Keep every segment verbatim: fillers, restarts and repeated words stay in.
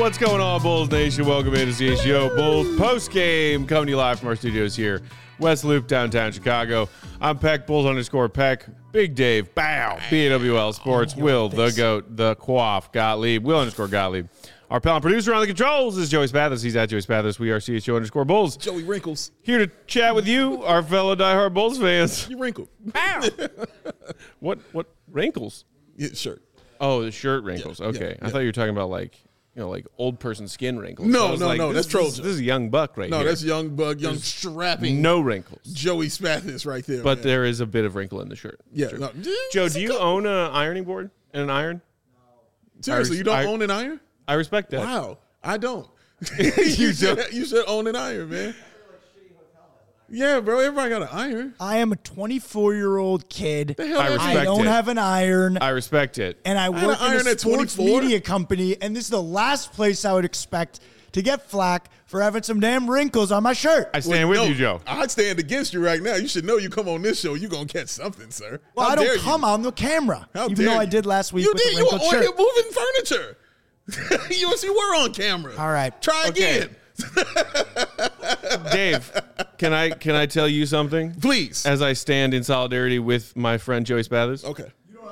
What's going on, Bulls Nation? Welcome into C H G O Bulls post-game, coming to you live from our studios here, West Loop, downtown Chicago. I'm Peck, Bulls underscore Peck, Big Dave, Bow, B A W L Sports, Will, the GOAT, the Quaff, Gottlieb, Will underscore Gottlieb. Our pal and producer on the controls is Joey Spathis. He's at Joey Spathis. We are C H G O underscore Bulls. Joey Wrinkles. Here to chat with you, our fellow diehard Bulls fans. You wrinkled. Bow. what, what, wrinkles? Yeah, sure. Oh, the shirt wrinkles. Yeah, okay. yeah, I yeah. thought you were talking about like, you know, like old person skin wrinkles. No, I was no, like, no, This, that's this, Trojan. this is a young buck right No, here. that's young bug, young There's strapping no wrinkles. Joey Spathis right there. But man. there is a bit of wrinkle in the shirt. Yeah. Sure. No. Joe, do you own an ironing board and an iron? Seriously, I- you don't I- own an iron? I respect that. Wow, I don't. You you, should, don't? you should own an iron, man. Yeah, bro. Everybody got an iron. I am a twenty-four-year-old kid. The hell I that- respect I don't it. have an iron, I respect it. and I had work an in iron a at sports twenty-four? media company, and this is the last place I would expect to get flack for having some damn wrinkles on my shirt. I stand Well, with no, you, Joe. I stand against you right now. You should know you come on this show, you're going to catch something, sir. well, How I don't dare come you? on the camera, How even dare though I you? did last week You with did. the You were wrinkled on shirt. here moving furniture. you, you were on camera. All right. Try Okay. again. Dave, can I can I tell you something? Please. As I stand in solidarity with my friend Joey Spathis. Okay.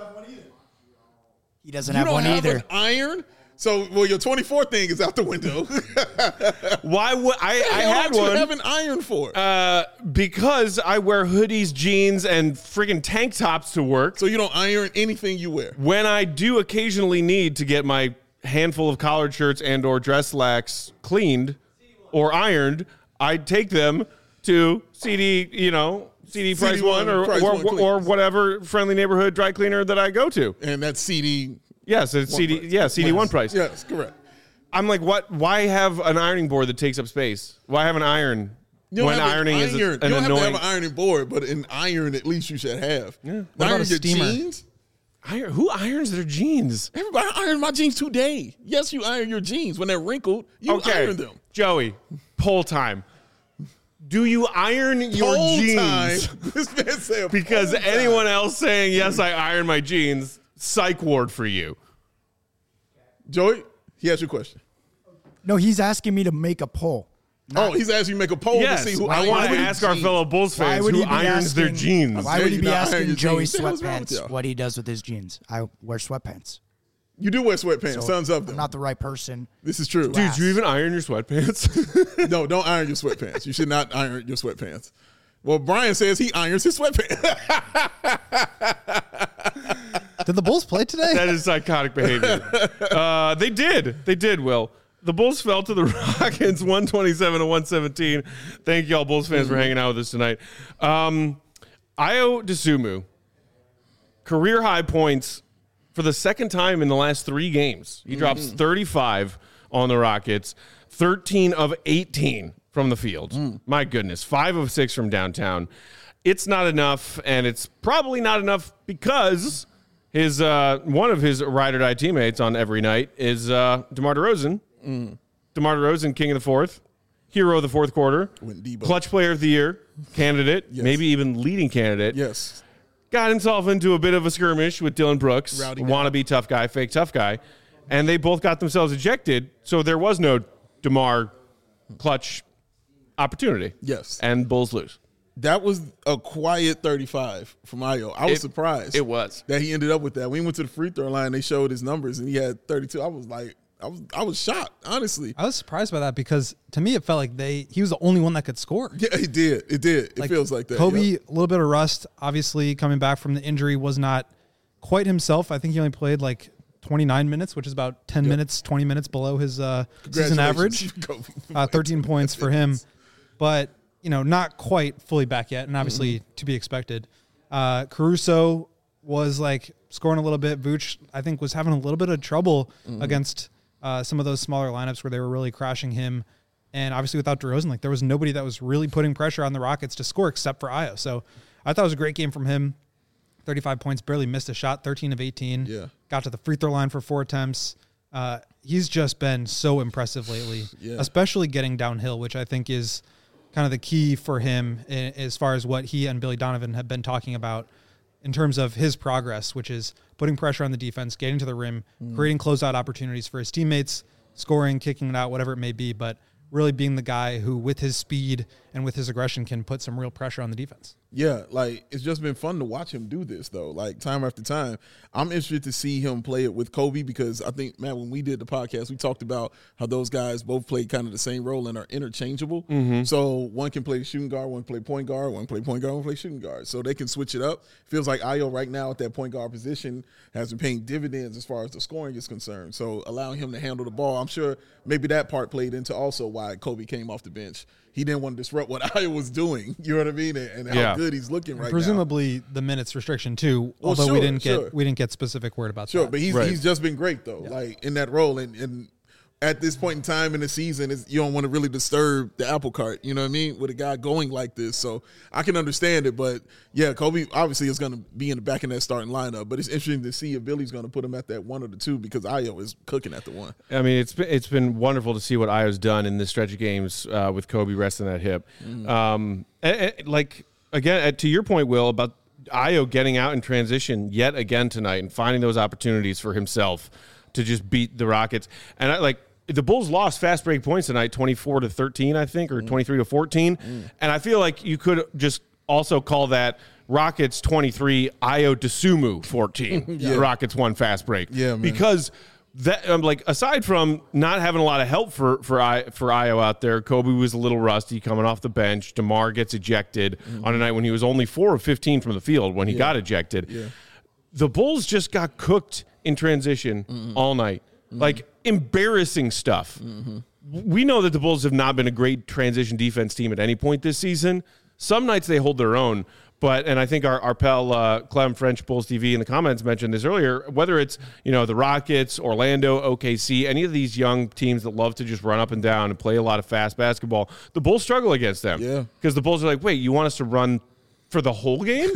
He doesn't You have don't one have either. an iron? So, well, your twenty-four thing is out the window. Why would I? What the I hell had don't you one. have an iron for? Uh, because I wear hoodies, jeans, and friggin' tank tops to work. so you don't iron anything you wear. When I do occasionally need to get my handful of collared shirts and or dress slacks cleaned or ironed, I take them to C D, you know, C D Price C D One or Price or, One or Cleans. whatever friendly neighborhood dry cleaner that I go to. And that's C D. Yes, it's C D. price. Yeah, C D one price. Yes, correct. I'm like, what? Why have an ironing board that takes up space? Why have an iron You don't when have an ironing iron. is You an don't have annoying? to have an ironing board, but an iron at least you should have. Yeah. What about Iron a your steamer? jeans? Iron, who irons their jeans? Everybody iron my jeans today. Yes, you iron your jeans. When they're wrinkled, you Okay, iron them. Joey, poll time. Do you iron your Poll jeans? time. This man said Because poll time. anyone else saying, yes, I iron my jeans, psych ward for you. Joey, he has your question. No, he's asking me to make a poll. Oh, he's asking you to make a poll Yes, to see who I want to irons ask our jeans. fellow Bulls Why fans would who he be irons their asking- jeans. Why Yeah, would he you be not iron asking your Joey jeans. What the hell's wrong with sweatpants y'all? what he does with his jeans? I wear sweatpants. You do wear sweatpants. So Sons of them. I'm not the right person. This is true. Dude, do you even iron your sweatpants? No, don't iron your sweatpants. You should not iron your sweatpants. Well, Brian says he irons his sweatpants. Did the Bulls play today? That is psychotic behavior. Uh, they did. They did, Will. The Bulls fell to the Rockets one twenty-seven to one seventeen. Thank you all Bulls fans for hanging out with us tonight. Um, Ayo Dosunmu, career high points for the second time in the last three games. He drops thirty-five on the Rockets, thirteen of eighteen from the field. My goodness, five of six from downtown. It's not enough, and it's probably not enough because his uh, one of his ride or die teammates on every night is uh, DeMar DeRozan. Mm. DeMar DeRozan, king of the fourth, hero of the fourth quarter, When Debo- clutch player of the year, candidate, Yes. maybe even leading candidate. Yes. Got himself into a bit of a skirmish with Dylan Brooks, Rowdy guy. wannabe tough guy, fake tough guy, and they both got themselves ejected. So there was no DeMar clutch opportunity. Yes. And Bulls lose. That was a quiet thirty-five from Ayo. I was It- surprised. it was. That he ended up with that. When he went to the free throw line, they showed his numbers, and he had thirty-two. I was like, I was I was shocked, honestly. I was surprised by that because to me it felt like they he was the only one that could score. Yeah, it did. It did. It feels like that. Kobe, Yep. a little bit of rust, obviously coming back from the injury, was not quite himself. I think he only played like twenty-nine minutes, which is about ten minutes, twenty minutes below his uh, season average. Congratulations, Kobe. Uh, thirteen points for him, but you know, not quite fully back yet, and obviously Mm-hmm. to be expected. Uh, Caruso was like scoring a little bit. Vooch, I think, was having a little bit of trouble Mm-hmm. against uh, some of those smaller lineups where they were really crashing him. And obviously without DeRozan, like there was nobody that was really putting pressure on the Rockets to score except for Ayo. So I thought it was a great game from him. thirty-five points, barely missed a shot, thirteen of eighteen. Yeah. Got to the free throw line for four attempts. Uh, he's just been so impressive lately, Yeah. especially getting downhill, which I think is kind of the key for him i- as far as what he and Billy Donovan have been talking about in terms of his progress, which is putting pressure on the defense, getting to the rim, creating closeout opportunities for his teammates, scoring, kicking it out, whatever it may be, but really being the guy who, with his speed and with his aggression, can put some real pressure on the defense. Yeah, like it's just been fun to watch him do this though. Like time after time, I'm interested to see him play it with Kobe because I think, man, when we did the podcast, we talked about how those guys both play kind of the same role and are interchangeable. Mm-hmm. So one can play shooting guard, one can play point guard, one can play point guard, one can play shooting guard. So they can switch it up. Feels like Ayo right now at that point guard position has been paying dividends as far as the scoring is concerned. So allowing him to handle the ball, I'm sure maybe that part played into also why Kobe came off the bench. He didn't want to disrupt what Ayo was doing. You know what I mean? And, and how yeah. good he's looking right Presumably now. the minutes restriction too, Well, although sure, we didn't sure. get we didn't get specific word about Sure, that. but he's Right. he's just been great though, Yeah. like in that role. And, and at this point in time in the season, it's, you don't want to really disturb the apple cart. You know what I mean? With a guy going like this, so I can understand it. But yeah, Kobe obviously is going to be in the back in that starting lineup. But it's interesting to see if Billy's going to put him at that one or the two because Ayo is cooking at the one. I mean, it's been, it's been wonderful to see what Ayo's done in this stretch of games uh, with Kobe resting that hip. Mm. Um, and, and, like, again, to your point, Will, about Ayo getting out in transition yet again tonight and finding those opportunities for himself to just beat the Rockets. And, I like, the Bulls lost fast break points tonight, twenty-four to thirteen, I think, or twenty-three to fourteen. Mm. And I feel like you could just also call that Rockets twenty-three, Ayo Dosunmu fourteen. yeah. Rockets one fast break. Yeah, man. Because that, um, like, aside from not having a lot of help for for I, for Ayo out there, Kobe was a little rusty coming off the bench. DeMar gets ejected mm-hmm. on a night when he was only four of fifteen from the field when he yeah. got ejected. Yeah. The Bulls just got cooked in transition mm-hmm. all night. Mm-hmm. Like, embarrassing stuff. Mm-hmm. We know that the Bulls have not been a great transition defense team at any point this season. Some nights they hold their own, but, and I think our, our pal uh, Clem French, Bulls T V in the comments mentioned this earlier, whether it's, you know, the Rockets, Orlando, O K C, any of these young teams that love to just run up and down and play a lot of fast basketball, the Bulls struggle against them. Yeah. Because the Bulls are like, wait, you want us to run for the whole game?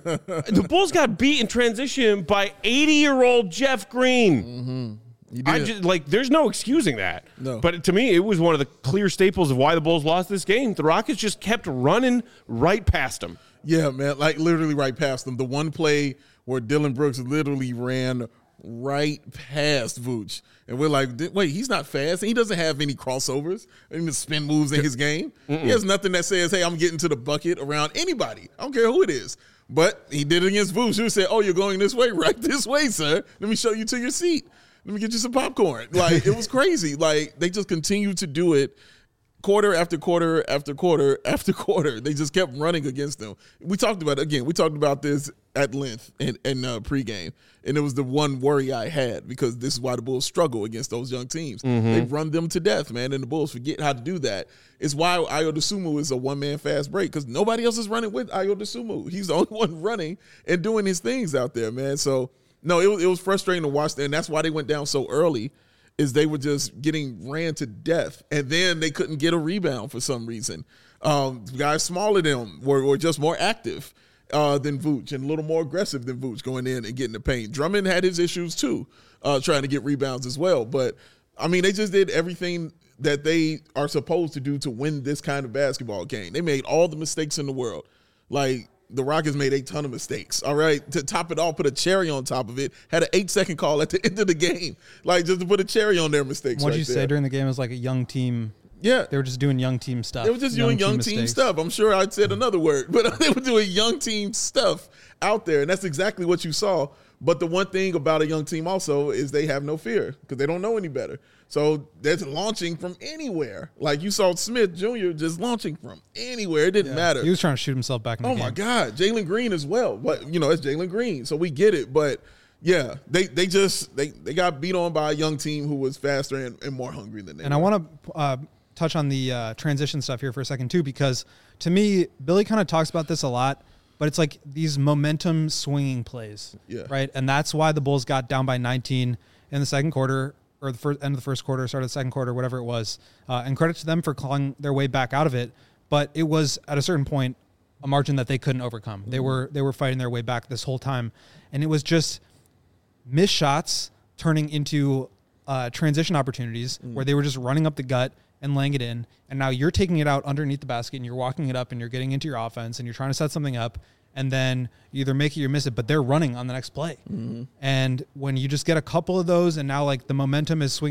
The Bulls got beat in transition by eighty-year-old Jeff Green. Mm-hmm. I just, like, there's no excusing that. No. But to me, it was one of the clear staples of why the Bulls lost this game. The Rockets just kept running right past them. Yeah, man, like literally right past them. The one play where Dylan Brooks literally ran right past Vooch. And we're like, wait, he's not fast. He doesn't have any crossovers, any spin moves in his game. Mm-mm. He has nothing that says, hey, I'm getting to the bucket around anybody. I don't care who it is. But he did it against Vooch. He said, oh, you're going this way? Right this way, sir. Let me show you to your seat. Let me get you some popcorn. Like, it was crazy. Like, they just continued to do it quarter after quarter after quarter after quarter. They just kept running against them. We talked about it again. We talked about this at length in, in uh, pregame, and it was the one worry I had because this is why the Bulls struggle against those young teams. Mm-hmm. They run them to death, man, and the Bulls forget how to do that. It's why Ayo Dosunmu is a one-man fast break because nobody else is running with Ayo Dosunmu. He's the only one running and doing his things out there, man. So, no, it was, it was frustrating to watch, and that's why they went down so early. Is they were just getting ran to death, and then they couldn't get a rebound for some reason. Um, guys smaller than them were, were just more active uh, than Vooch and a little more aggressive than Vooch going in and getting the paint. Drummond had his issues too, uh, trying to get rebounds as well. But, I mean, they just did everything that they are supposed to do to win this kind of basketball game. They made all the mistakes in the world. Like, the Rockets made a ton of mistakes, all right? To top it all, put a cherry on top of it, had an eight-second call at the end of the game, like just to put a cherry on their mistakes. What did right you there. say during the game? It was like a young team. Yeah. They were just doing young team stuff. They were just young doing young team, team stuff. I'm sure I said another word, but they were doing young team stuff out there, and that's exactly what you saw. But the one thing about a young team also is they have no fear because they don't know any better. So that's launching from anywhere. Like you saw Smith Junior just launching from anywhere. It didn't yeah. matter. He was trying to shoot himself back in the oh game. Oh, my God. Jalen Green as well. But, you know, it's Jalen Green. So we get it. But, yeah, they they just they, they got beat on by a young team who was faster and, and more hungry than they And were. I want to uh, touch on the uh, transition stuff here for a second, too, because to me, Billy kind of talks about this a lot. But it's like these momentum swinging plays, yeah. right? And that's why the Bulls got down by nineteen in the second quarter, or the first, end of the first quarter, start of the second quarter, whatever it was. Uh, and credit to them for clawing their way back out of it. But it was, at a certain point, a margin that they couldn't overcome. Mm-hmm. They were they were fighting their way back this whole time. And it was just missed shots turning into uh, transition opportunities mm. where they were just running up the gut and laying it in, and now you're taking it out underneath the basket and you're walking it up and you're getting into your offense and you're trying to set something up, and then you either make it or miss it, but they're running on the next play. Mm-hmm. And when you just get a couple of those and now like the momentum is swinging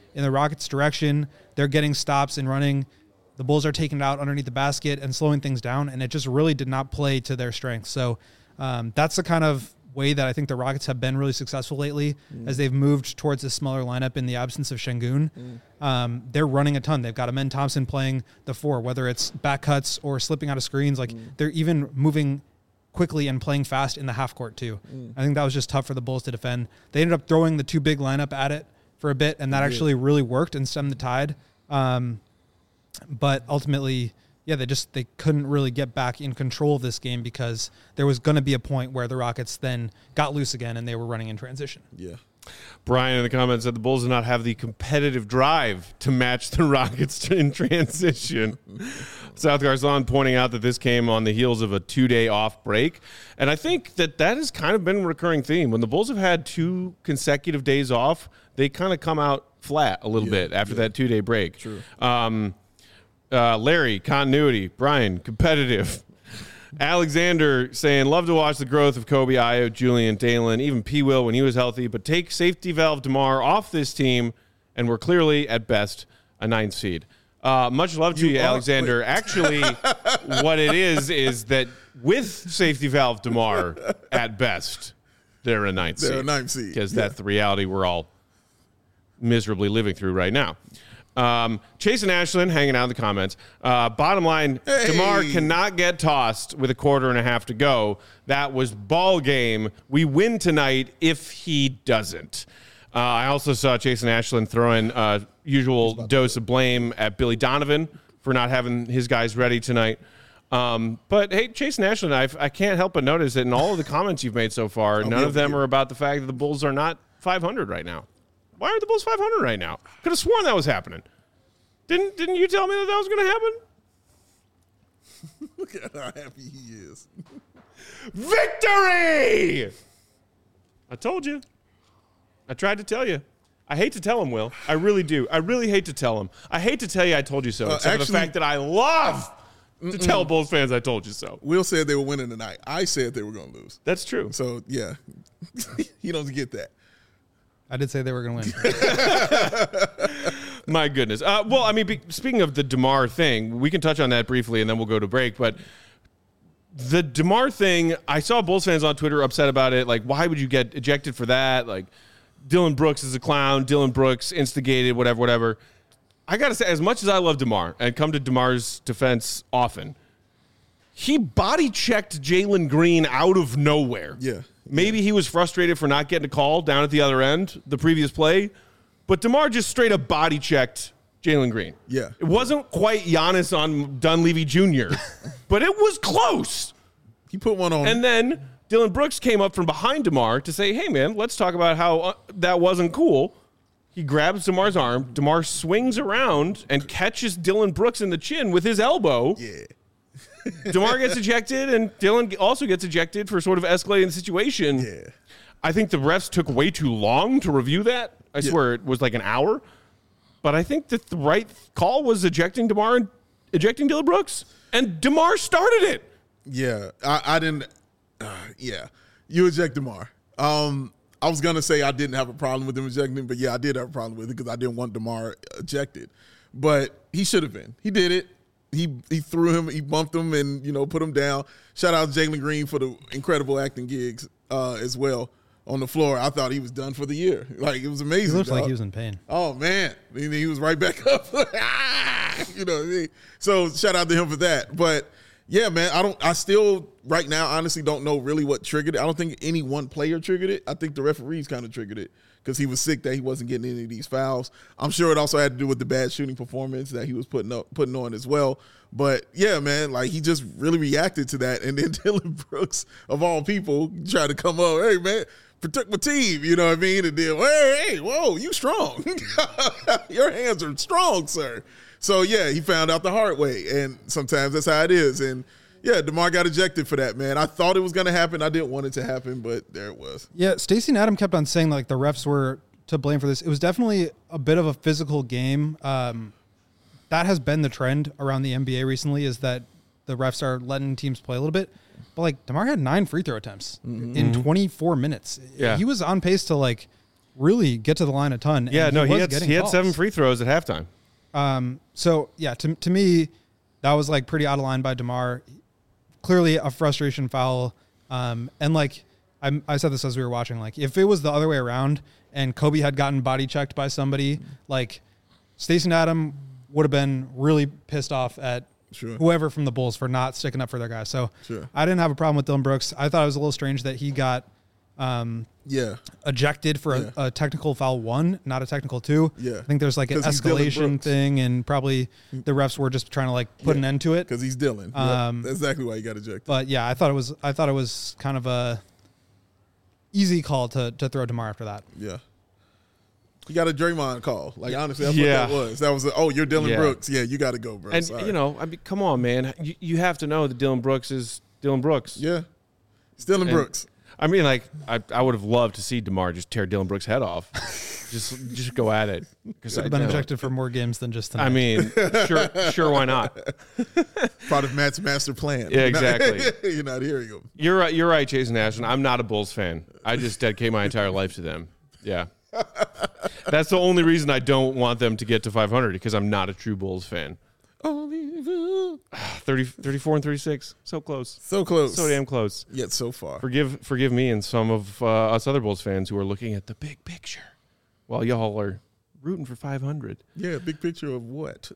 in the Rockets' direction. They're getting stops and running. The Bulls are taking it out underneath the basket and slowing things down, and it just really did not play to their strengths. So um, that's the kind of way that I think the Rockets have been really successful lately mm. as they've moved towards a smaller lineup in the absence of Şengün. Mm. Um, they're running a ton. They've got Amen Thompson playing the four, whether it's back cuts or slipping out of screens. Like mm. they're even moving quickly and playing fast in the half court too. Mm. I think that was just tough for the Bulls to defend. They ended up throwing the two big lineup at it for a bit, and that yeah. actually really worked and stemmed the tide. Um, but ultimately, yeah, they just they couldn't really get back in control of this game because there was going to be a point where the Rockets then got loose again and they were running in transition. Yeah. Brian in the comments said the Bulls did not have the competitive drive to match the Rockets in transition. South Garzon pointing out that this came on the heels of a two-day off break. And I think that that has kind of been a recurring theme. When the Bulls have had two consecutive days off, they kind of come out flat a little yeah, bit after yeah. that two-day break. True. Um, uh, Larry, continuity. Brian, competitive. Alexander saying, love to watch the growth of Kobe, Ayo, Julian, Dalen, even P. Will when he was healthy, but take safety valve DeMar off this team, and we're clearly, at best, a ninth seed. Uh, much love to you, you Alexander. Wait. Actually, what it is is that with safety valve DeMar, at best, they're a ninth they're seed. a ninth seed. Because yeah. that's the reality we're all miserably living through right now. Um, Chase and Ashland hanging out in the comments. Uh, bottom line, hey. DeMar cannot get tossed with a quarter and a half to go. That was ball game. We win tonight if he doesn't. Uh, I also saw Chase and Ashland throwing a usual dose of blame at Billy Donovan for not having his guys ready tonight. Um, but, hey, Chase and Ashland, I've, I can't help but notice that in all of the comments you've made so far, none of them are about the fact that the Bulls are not five hundred right now. Why aren't the Bulls five hundred right now? Could have sworn that was happening. Didn't Didn't you tell me that that was going to happen? Look at how happy he is. Victory! I told you. I tried to tell you. I hate to tell him, Will. I really do. I really hate to tell him. I hate to tell you I told you so, uh, except actually, for the fact that I love to mm-mm. tell Bulls fans I told you so. Will said they were winning tonight. I said they were going to lose. That's true. So, yeah. You don't get that. I did say they were going to win. My goodness. Uh, well, I mean, be, speaking of the DeMar thing, we can touch on that briefly, and then we'll go to break. But the DeMar thing, I saw Bulls fans on Twitter upset about it. Like, why would you get ejected for that? Like, Dylan Brooks is a clown. Dylan Brooks instigated, whatever, whatever. I got to say, as much as I love DeMar and come to DeMar's defense often, he body-checked Jalen Green out of nowhere. Yeah. Maybe he was frustrated for not getting a call down at the other end, the previous play. But DeMar just straight up body-checked Jalen Green. Yeah. It wasn't quite Giannis on Dunleavy Junior, but it was close. He put one on. And then Dylan Brooks came up from behind DeMar to say, hey, man, let's talk about how uh, that wasn't cool. He grabs DeMar's arm. DeMar swings around and catches Dylan Brooks in the chin with his elbow. Yeah. DeMar gets ejected, and Dylan also gets ejected for sort of escalating the situation. Yeah. I think the refs took way too long to review that. I yeah. swear it was like an hour. But I think that the right call was ejecting DeMar and ejecting Dylan Brooks. And DeMar started it. Yeah. I, I didn't uh, – yeah. You eject DeMar. Um, I was going to say I didn't have a problem with him ejecting, but, yeah, I did have a problem with it because I didn't want DeMar ejected. But he should have been. He did it. He he threw him, he bumped him, and, you know, put him down. Shout out to Jalen Green for the incredible acting gigs uh, as well on the floor. I thought he was done for the year. Like, it was amazing. He looks dog. like he was in pain. Oh, man. He, he was right back up. You know, so shout out to him for that. But, yeah, man, I don't. I still, right now, honestly don't know really what triggered it. I don't think any one player triggered it. I think the referees kind of triggered it because he was sick that he wasn't getting any of these fouls. I'm sure it also had to do with the bad shooting performance that he was putting up, putting on as well. But, yeah, man, like, he just really reacted to that. And then Dylan Brooks, of all people, tried to come up, hey, man, protect my team, you know what I mean? And then, hey, hey, whoa, you strong. Your hands are strong, sir. So, yeah, he found out the hard way. And sometimes that's how it is. And, yeah, DeMar got ejected for that, man. I thought it was going to happen. I didn't want it to happen, but there it was. Yeah, Stacey and Adam kept on saying, like, the refs were to blame for this. It was definitely a bit of a physical game. Um, that has been the trend around the N B A recently, is that the refs are letting teams play a little bit. But, like, DeMar had nine free throw attempts mm-hmm. in twenty-four minutes. Yeah. He was on pace to, like, really get to the line a ton. and Yeah, no, he was had getting he had calls. seven free throws at halftime. Um, so yeah, to to me, that was like pretty out of line by DeMar. Clearly a frustration foul. Um, and like I, I said this as we were watching, like if it was the other way around and Kobe had gotten body checked by somebody, like Stacey Adam would have been really pissed off at Sure. whoever from the Bulls for not sticking up for their guy. So Sure. I didn't have a problem with Dylan Brooks. I thought it was a little strange that he got um, Yeah. ejected for Yeah. a, a technical foul one, not a technical two. Yeah. I think there's like an 'Cause he's Dylan escalation Brooks. thing, and probably the refs were just trying to like put Yeah. an end to it. Because he's Dylan. Um, Yep. That's exactly why he got ejected. But yeah, I thought it was I thought it was kind of a easy call to to throw DeMar after that. Yeah. You got a Draymond call. Like, honestly, that's Yeah. what that was. That was, a, oh, you're Dylan Yeah. Brooks. Yeah, you got to go, bro. And Sorry. you know, I mean, come on, man. You, you have to know that Dylan Brooks is Dylan Brooks. Yeah. It's Dylan And- Brooks. I mean, like, I, I would have loved to see DeMar just tear Dylan Brooks' head off. just just go at it. Because I've been ejected for more games than just tonight. I mean, sure, sure, why not? Part of Matt's master plan. Yeah, You're not- exactly. You're not hearing him. You're right. You're right, Jason Ashton. I'm not a Bulls fan. I just dedicate my entire life to them. Yeah, that's the only reason I don't want them to get to five hundred because I'm not a true Bulls fan. Only you. thirty, thirty-four and thirty-six, so close, So close. so damn close. Yet so far. Forgive, forgive me and some of uh, us other Bulls fans who are looking at the big picture, while y'all are rooting for five hundred, Yeah, big picture of what?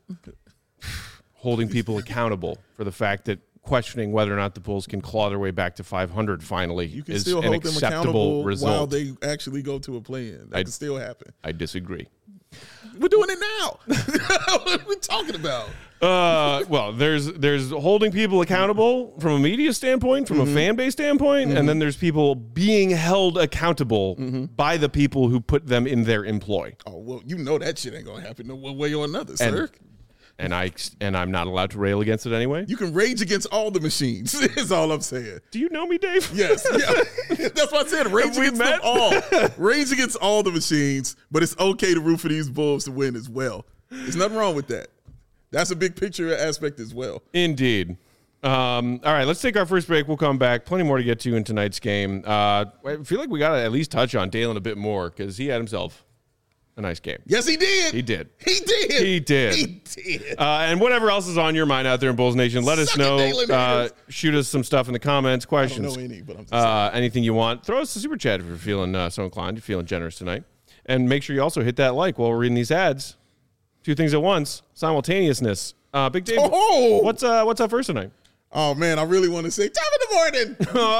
holding people accountable for the fact that questioning whether or not the Bulls can claw their way back to five hundred finally You can is still an hold them acceptable accountable result. while they actually go to a play-in. That I- can still happen. I disagree. We're doing it now. What are we talking about? Uh, well, there's there's holding people accountable from a media standpoint, from Mm-hmm. a fan base standpoint, and then there's people being held accountable Mm-hmm. by the people who put them in their employ. Oh, well, you know that shit ain't going to happen no one way or another, sir. And, and I and I'm not allowed to rail against it anyway. You can rage against all the machines, is all I'm saying. Do you know me, Dave? Yes. Yeah. That's what I said. Rage Have we against met? them all. Rage against all the machines, but it's okay to root for these Bulls to win as well. There's nothing wrong with that. That's a big picture aspect as well. Indeed. Um, all right, let's take our first break. We'll come back. Plenty more to get to in tonight's game. Uh, I feel like we got to at least touch on Dalen a bit more because he had himself a nice game. Yes, he did. He did. He did. He did. He did. Uh, and whatever else is on your mind out there in Bulls Nation, let us Suck it, know. Dalen Uh, Harris. shoot us some stuff in the comments, I questions, don't know any, but I'm just uh, anything you want. Throw us a super chat if you're feeling uh, so inclined. You're feeling generous tonight. And make sure you also hit that like while we're reading these ads. Two things at once, simultaneousness. Uh, Big Dave, Oh! what's uh, what's up first tonight? Oh man, I really want to say top of the morning,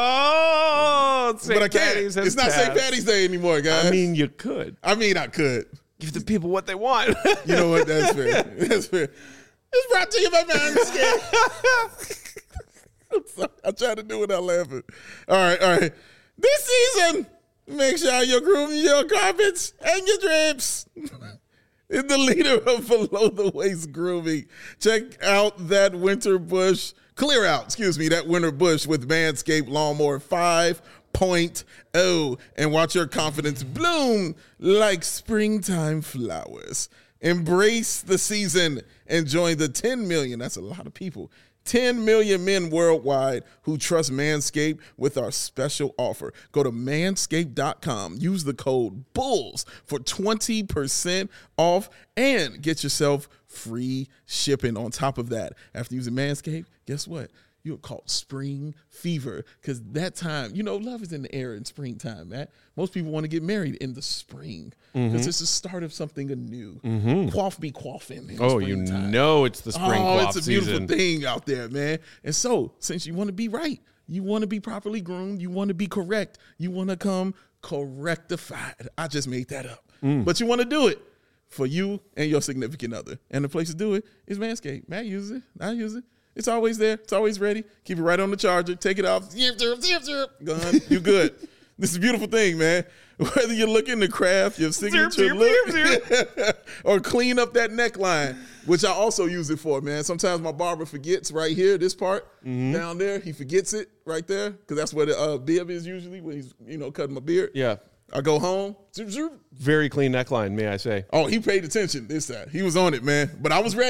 Oh, it's Saint but I can't. Patty's has It's not Saint passed. Patty's Day anymore, guys. I mean, you could I mean, I could. give the people what they want. You know what? That's fair. That's fair. It's brought to you by Manscaped. I'm sorry. I'm trying to do it without laughing. All right, all right. This season, make sure you're grooming your carpets and your drapes. In the leader of below the waist grooming, check out that winter bush. Clear out, excuse me, that winter bush with Manscaped Lawnmower five point oh and watch your confidence bloom like springtime flowers. Embrace the season and join the ten million, that's a lot of people, ten million men worldwide who trust Manscaped with our special offer. Go to manscaped dot com, use the code BULLS for twenty percent off and get yourself free shipping on top of that. After using Manscaped, guess what? You're caught spring fever because that time, you know, love is in the air in springtime, man. Most people want to get married in the spring because Mm-hmm. it's the start of something anew. Mm-hmm. Quaff be quaffing in Oh, you springtime. know it's the spring Oh, quaff it's a beautiful season. thing out there, man. And so, since you want to be right, you want to be properly groomed, you want to be correct, you want to come correctified. I just made that up. Mm. But you want to do it for you and your significant other. And the place to do it is Manscaped. Matt uses it. I use it. It's always there. It's always ready. Keep it right on the charger. Take it off. Zip, zip, zip, zip. Gone. You good. This is a beautiful thing, man. Whether you're looking to craft your signature zip, look zip, or clean up that neckline, which I also use it for, man. Sometimes my barber forgets right here, this part down there. He forgets it right there because that's where the uh, bib is usually when he's, you know, cutting my beard. Yeah. I go home. Zoop, zoop. Very clean neckline, may I say. Oh, he paid attention this time. He was on it, man. But I was ready.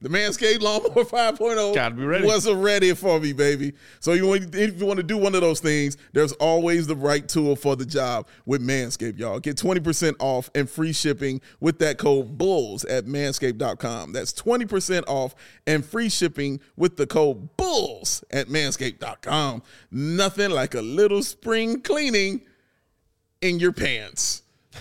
The Manscaped Lawnmower five point oh Gotta be ready. was ready for me, baby. So you want, if you want to do one of those things, there's always the right tool for the job with Manscaped, y'all. Get twenty percent off and free shipping with that code BULLS at manscaped dot com. That's twenty percent off and free shipping with the code BULLS at manscaped dot com. Nothing like a little spring cleaning in your pants.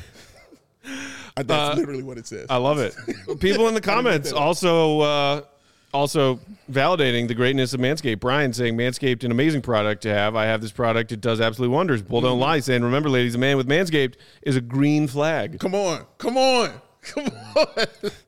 That's Uh, literally what it says. I love it. People in the comments also uh, also validating the greatness of Manscaped. Brian saying Manscaped, an amazing product to have. I have this product. It does absolute wonders. Bull don't lie. Saying, remember, ladies, a man with Manscaped is a green flag. Come on. Come on. Come on.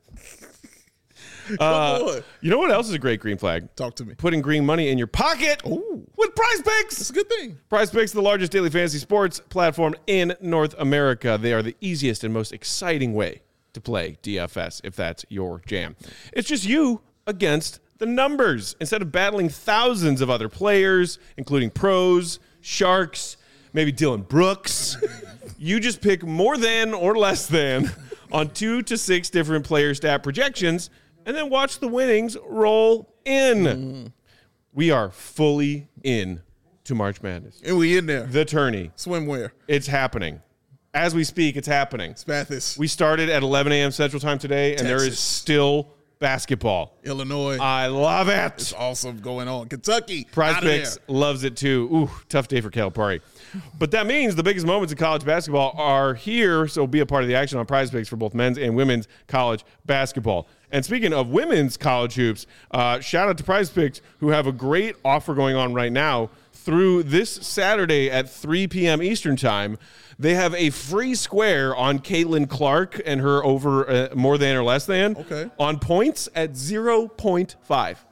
Come Uh, on. you know what else is a great green flag? Talk to me. Putting green money in your pocket Ooh. with Prize Picks. It's a good thing. Prize Picks, the largest daily fantasy sports platform in North America. They are the easiest and most exciting way to play D F S, if that's your jam. It's just you against the numbers. Instead of battling thousands of other players, including pros, sharks, maybe Dylan Brooks, you just pick more than or less than on two to six different player stat projections and then watch the winnings roll in. Mm. We are fully in to March Madness. And we in there. The tourney. Swimwear. It's happening. As we speak, it's happening. Spathis. We started at eleven a.m. Central Time today, and Texas. there is still basketball. Illinois. I love it. It's awesome going on. Kentucky. Prize outta Picks there. loves it too. Ooh, tough day for Calipari. But that means the biggest moments in college basketball are here, so be a part of the action on Prize Picks for both men's and women's college basketball. And speaking of women's college hoops, uh, shout out to Prize Picks, who have a great offer going on right now through this Saturday at three p.m. Eastern Time. They have a free square on Caitlin Clark and her over uh, more than or less than Okay. on points at zero point five.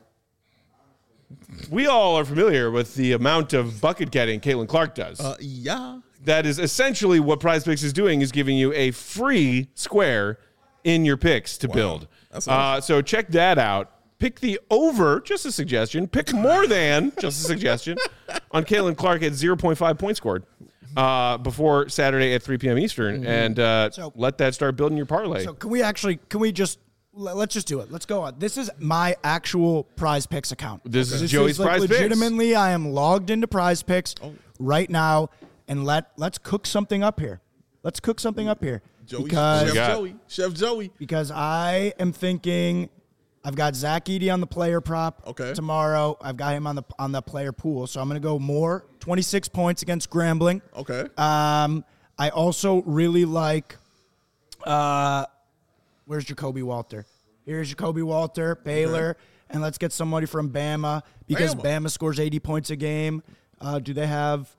We all are familiar with the amount of bucket getting Caitlin Clark does. Uh, yeah. That is essentially what Prize Picks is doing, is giving you a free square in your picks to build. That's Uh, awesome. so check that out. Pick the over, just a suggestion. Pick more than, just a suggestion, on Caitlin Clark at zero point five points scored uh, before Saturday at three p.m. Eastern, Mm-hmm. and uh, So- let that start building your parlay. So can we actually, can we just, le- let's just do it. Let's go on. This is my actual Prize Picks account. This is Joey's like Prize Picks. legitimately, I am logged into Prize Picks Oh. right now, and let, let's cook something up here. Let's cook something up here. Joey, because, Chef got? Joey. Chef Joey. because I am thinking I've got Zach Edey on the player prop Okay. tomorrow. I've got him on the on the player pool. So I'm going to go more, twenty-six points against Grambling. Okay. Um, I also really like, uh, where's Jacoby Walter? Here's Jacoby Walter, Baylor, and let's get somebody from Bama because Bama. Bama, scores eighty points a game. Uh, do they have,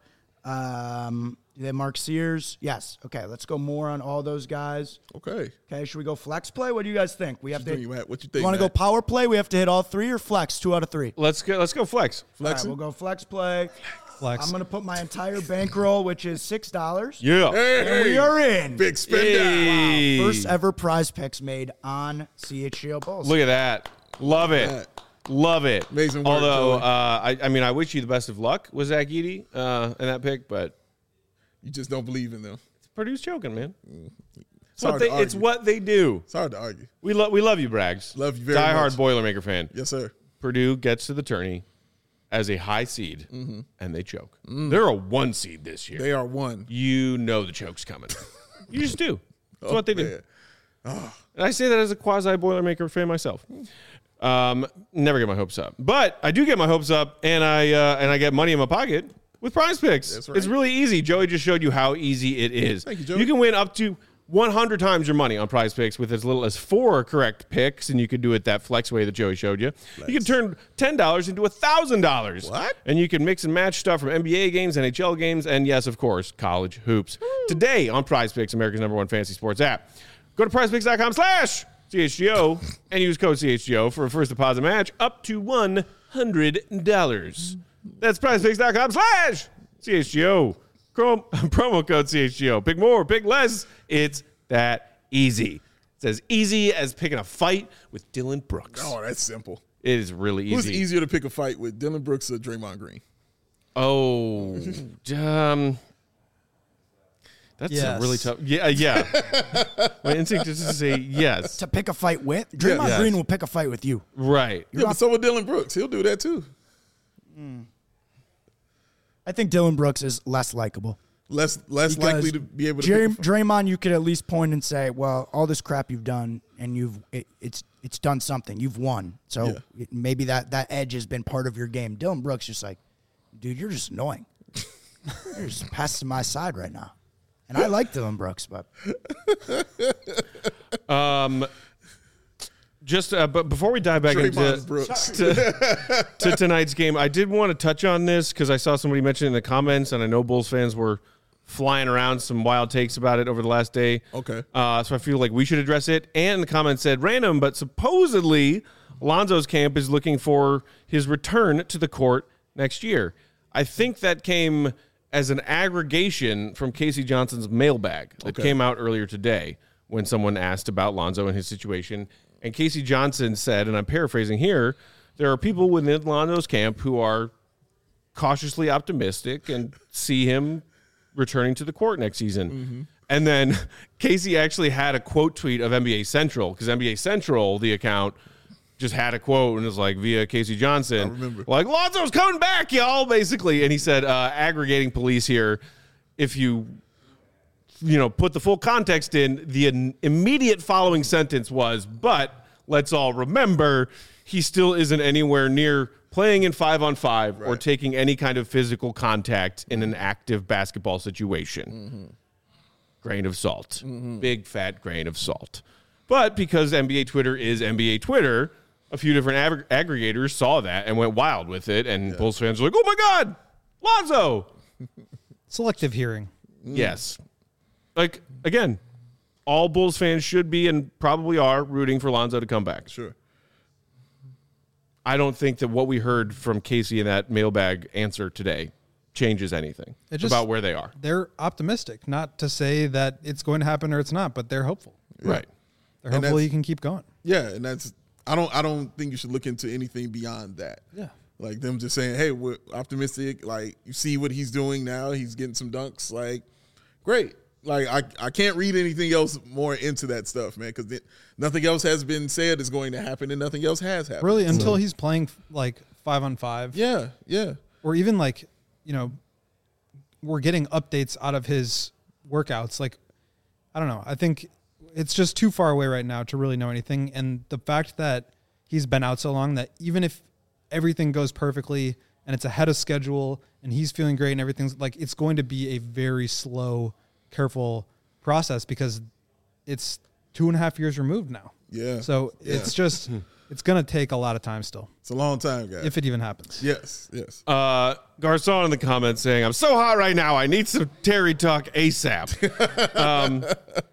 um, do they have Mark Sears? Yes. Okay, let's go more on all those guys. Okay. Okay, should we go flex play? What do you guys think? We have What to. you think, Matt? What you think, want to go Matt? power play? We have to hit all three or flex? Two out of three. let's go. Let's go flex. All right, Flexing? we'll go flex play. Flex. I'm going to put my entire bankroll, which is six dollars. Yeah. And we are in. Big spender. Hey. First ever Prize Picks made on C H G O Bulls. Look at that. Love it. that. Love it. Amazing work, Although, Joey. uh, I, I mean, I wish you the best of luck with Zach Edey uh, in that pick, but You just don't believe in them. Purdue's choking, man. It's It's what, hard they, to it's argue. what they do. It's hard to argue. We, lo- we love you, Braggs. Love you very Die much. hard Boilermaker fan. Yes, sir. Purdue gets to the tourney as a high seed, and they choke. They're a one seed this year. They are one. You know the choke's coming. You just do. That's Oh, what they do. man. And I say that as a quasi Boilermaker fan myself. Um, never get my hopes up, but I do get my hopes up, and I uh, and I get money in my pocket with Prize Picks. That's right. It's really easy. Joey just showed you how easy it is. Thank you, Joey. You can win up to one hundred times your money on Prize Picks with as little as four correct picks, and you can do it that flex way that Joey showed you. You can turn ten dollars into one thousand dollars. What? And you can mix and match stuff from N B A games, N H L games, and yes, of course, college hoops. Today on Prize Picks, America's number one fantasy sports app. Go to prizepicks.com slash CHGO and use code C H G O for a first deposit match up to one hundred dollars. That's prizepicks.com slash CHGO. Chrome, promo code C H G O. Pick more, pick less. It's that easy. It's as easy as picking a fight with Dylan Brooks. Oh, that's simple. It is really easy. Who's easier to pick a fight with, Dylan Brooks or Draymond Green? Oh, um, That's Yes. a really tough. Yeah, yeah. My instinct is to say yes. To pick a fight with Draymond Yes. Green will pick a fight with you. Right. Yeah, but so will Dylan Brooks. He'll do that too. I think Dylan Brooks is less likable. Less less Because likely to be able to. Dray- pick a fight. Draymond, you could at least point and say, "Well, all this crap you've done, and you've it, it's it's done something. You've won. So Yeah. it, maybe that that edge has been part of your game." Dylan Brooks just like, dude, you're just annoying. You're just passing my side right now, and I like Dylan Brooks, but Um, just uh, but before we dive back Draymond into Brooks. to, to tonight's game, I did want to touch on this because I saw somebody mention it in the comments, and I know Bulls fans were flying around some wild takes about it over the last day. Okay. Uh, so I feel like we should address it. And the comment said random, but supposedly Lonzo's camp is looking for his return to the court next year. I think that came as an aggregation from Casey Johnson's mailbag that Okay. came out earlier today when someone asked about Lonzo and his situation. And Casey Johnson said, and I'm paraphrasing here, there are people within Lonzo's camp who are cautiously optimistic and see him returning to the court next season. Mm-hmm. And then Casey actually had a quote tweet of N B A Central, because N B A Central, the account, just had a quote and it was like via Casey Johnson. I remember. Like, Lonzo's coming back, y'all, basically. And he said, uh, aggregating police here, if you, you know, put the full context in, the in- immediate following sentence was, but let's all remember, he still isn't anywhere near playing in five on five or Right. taking any kind of physical contact in an active basketball situation. Mm-hmm. Grain of salt. Big fat grain of salt. But because N B A Twitter is N B A Twitter, a few different ag- aggregators saw that and went wild with it. And Bulls fans were like, oh my God, Lonzo. Selective hearing. Yes. Like, again, all Bulls fans should be and probably are rooting for Lonzo to come back. Sure. I don't think that what we heard from Casey in that mailbag answer today changes anything It just- about where they are. They're optimistic, not to say that it's going to happen or it's not, but they're hopeful. Right. They're And hopeful that's- you can keep going. Yeah, and that's I don't I don't think you should look into anything beyond that. Yeah. Like them just saying, "Hey, we're optimistic." Like you see what he's doing now. He's getting some dunks. Like, great. Like I, I can't read anything else more into that stuff, man, because nothing else has been said is going to happen, and nothing else has happened. Really, until he's playing like five on five. Yeah, yeah, Or even like, you know, we're getting updates out of his workouts. Like, I don't know. I think it's just too far away right now to really know anything. And the fact that he's been out so long that even if everything goes perfectly and it's ahead of schedule and he's feeling great and everything's like, it's going to be a very slow, careful process because it's two and a half years removed now. yeah. So Yeah. it's just, it's going to take a lot of time still, it's a long time, guys. if it even happens. yes, yes. Uh, Garcon in the comments saying, I'm so hot right now. I need some Terry talk ASAP. um,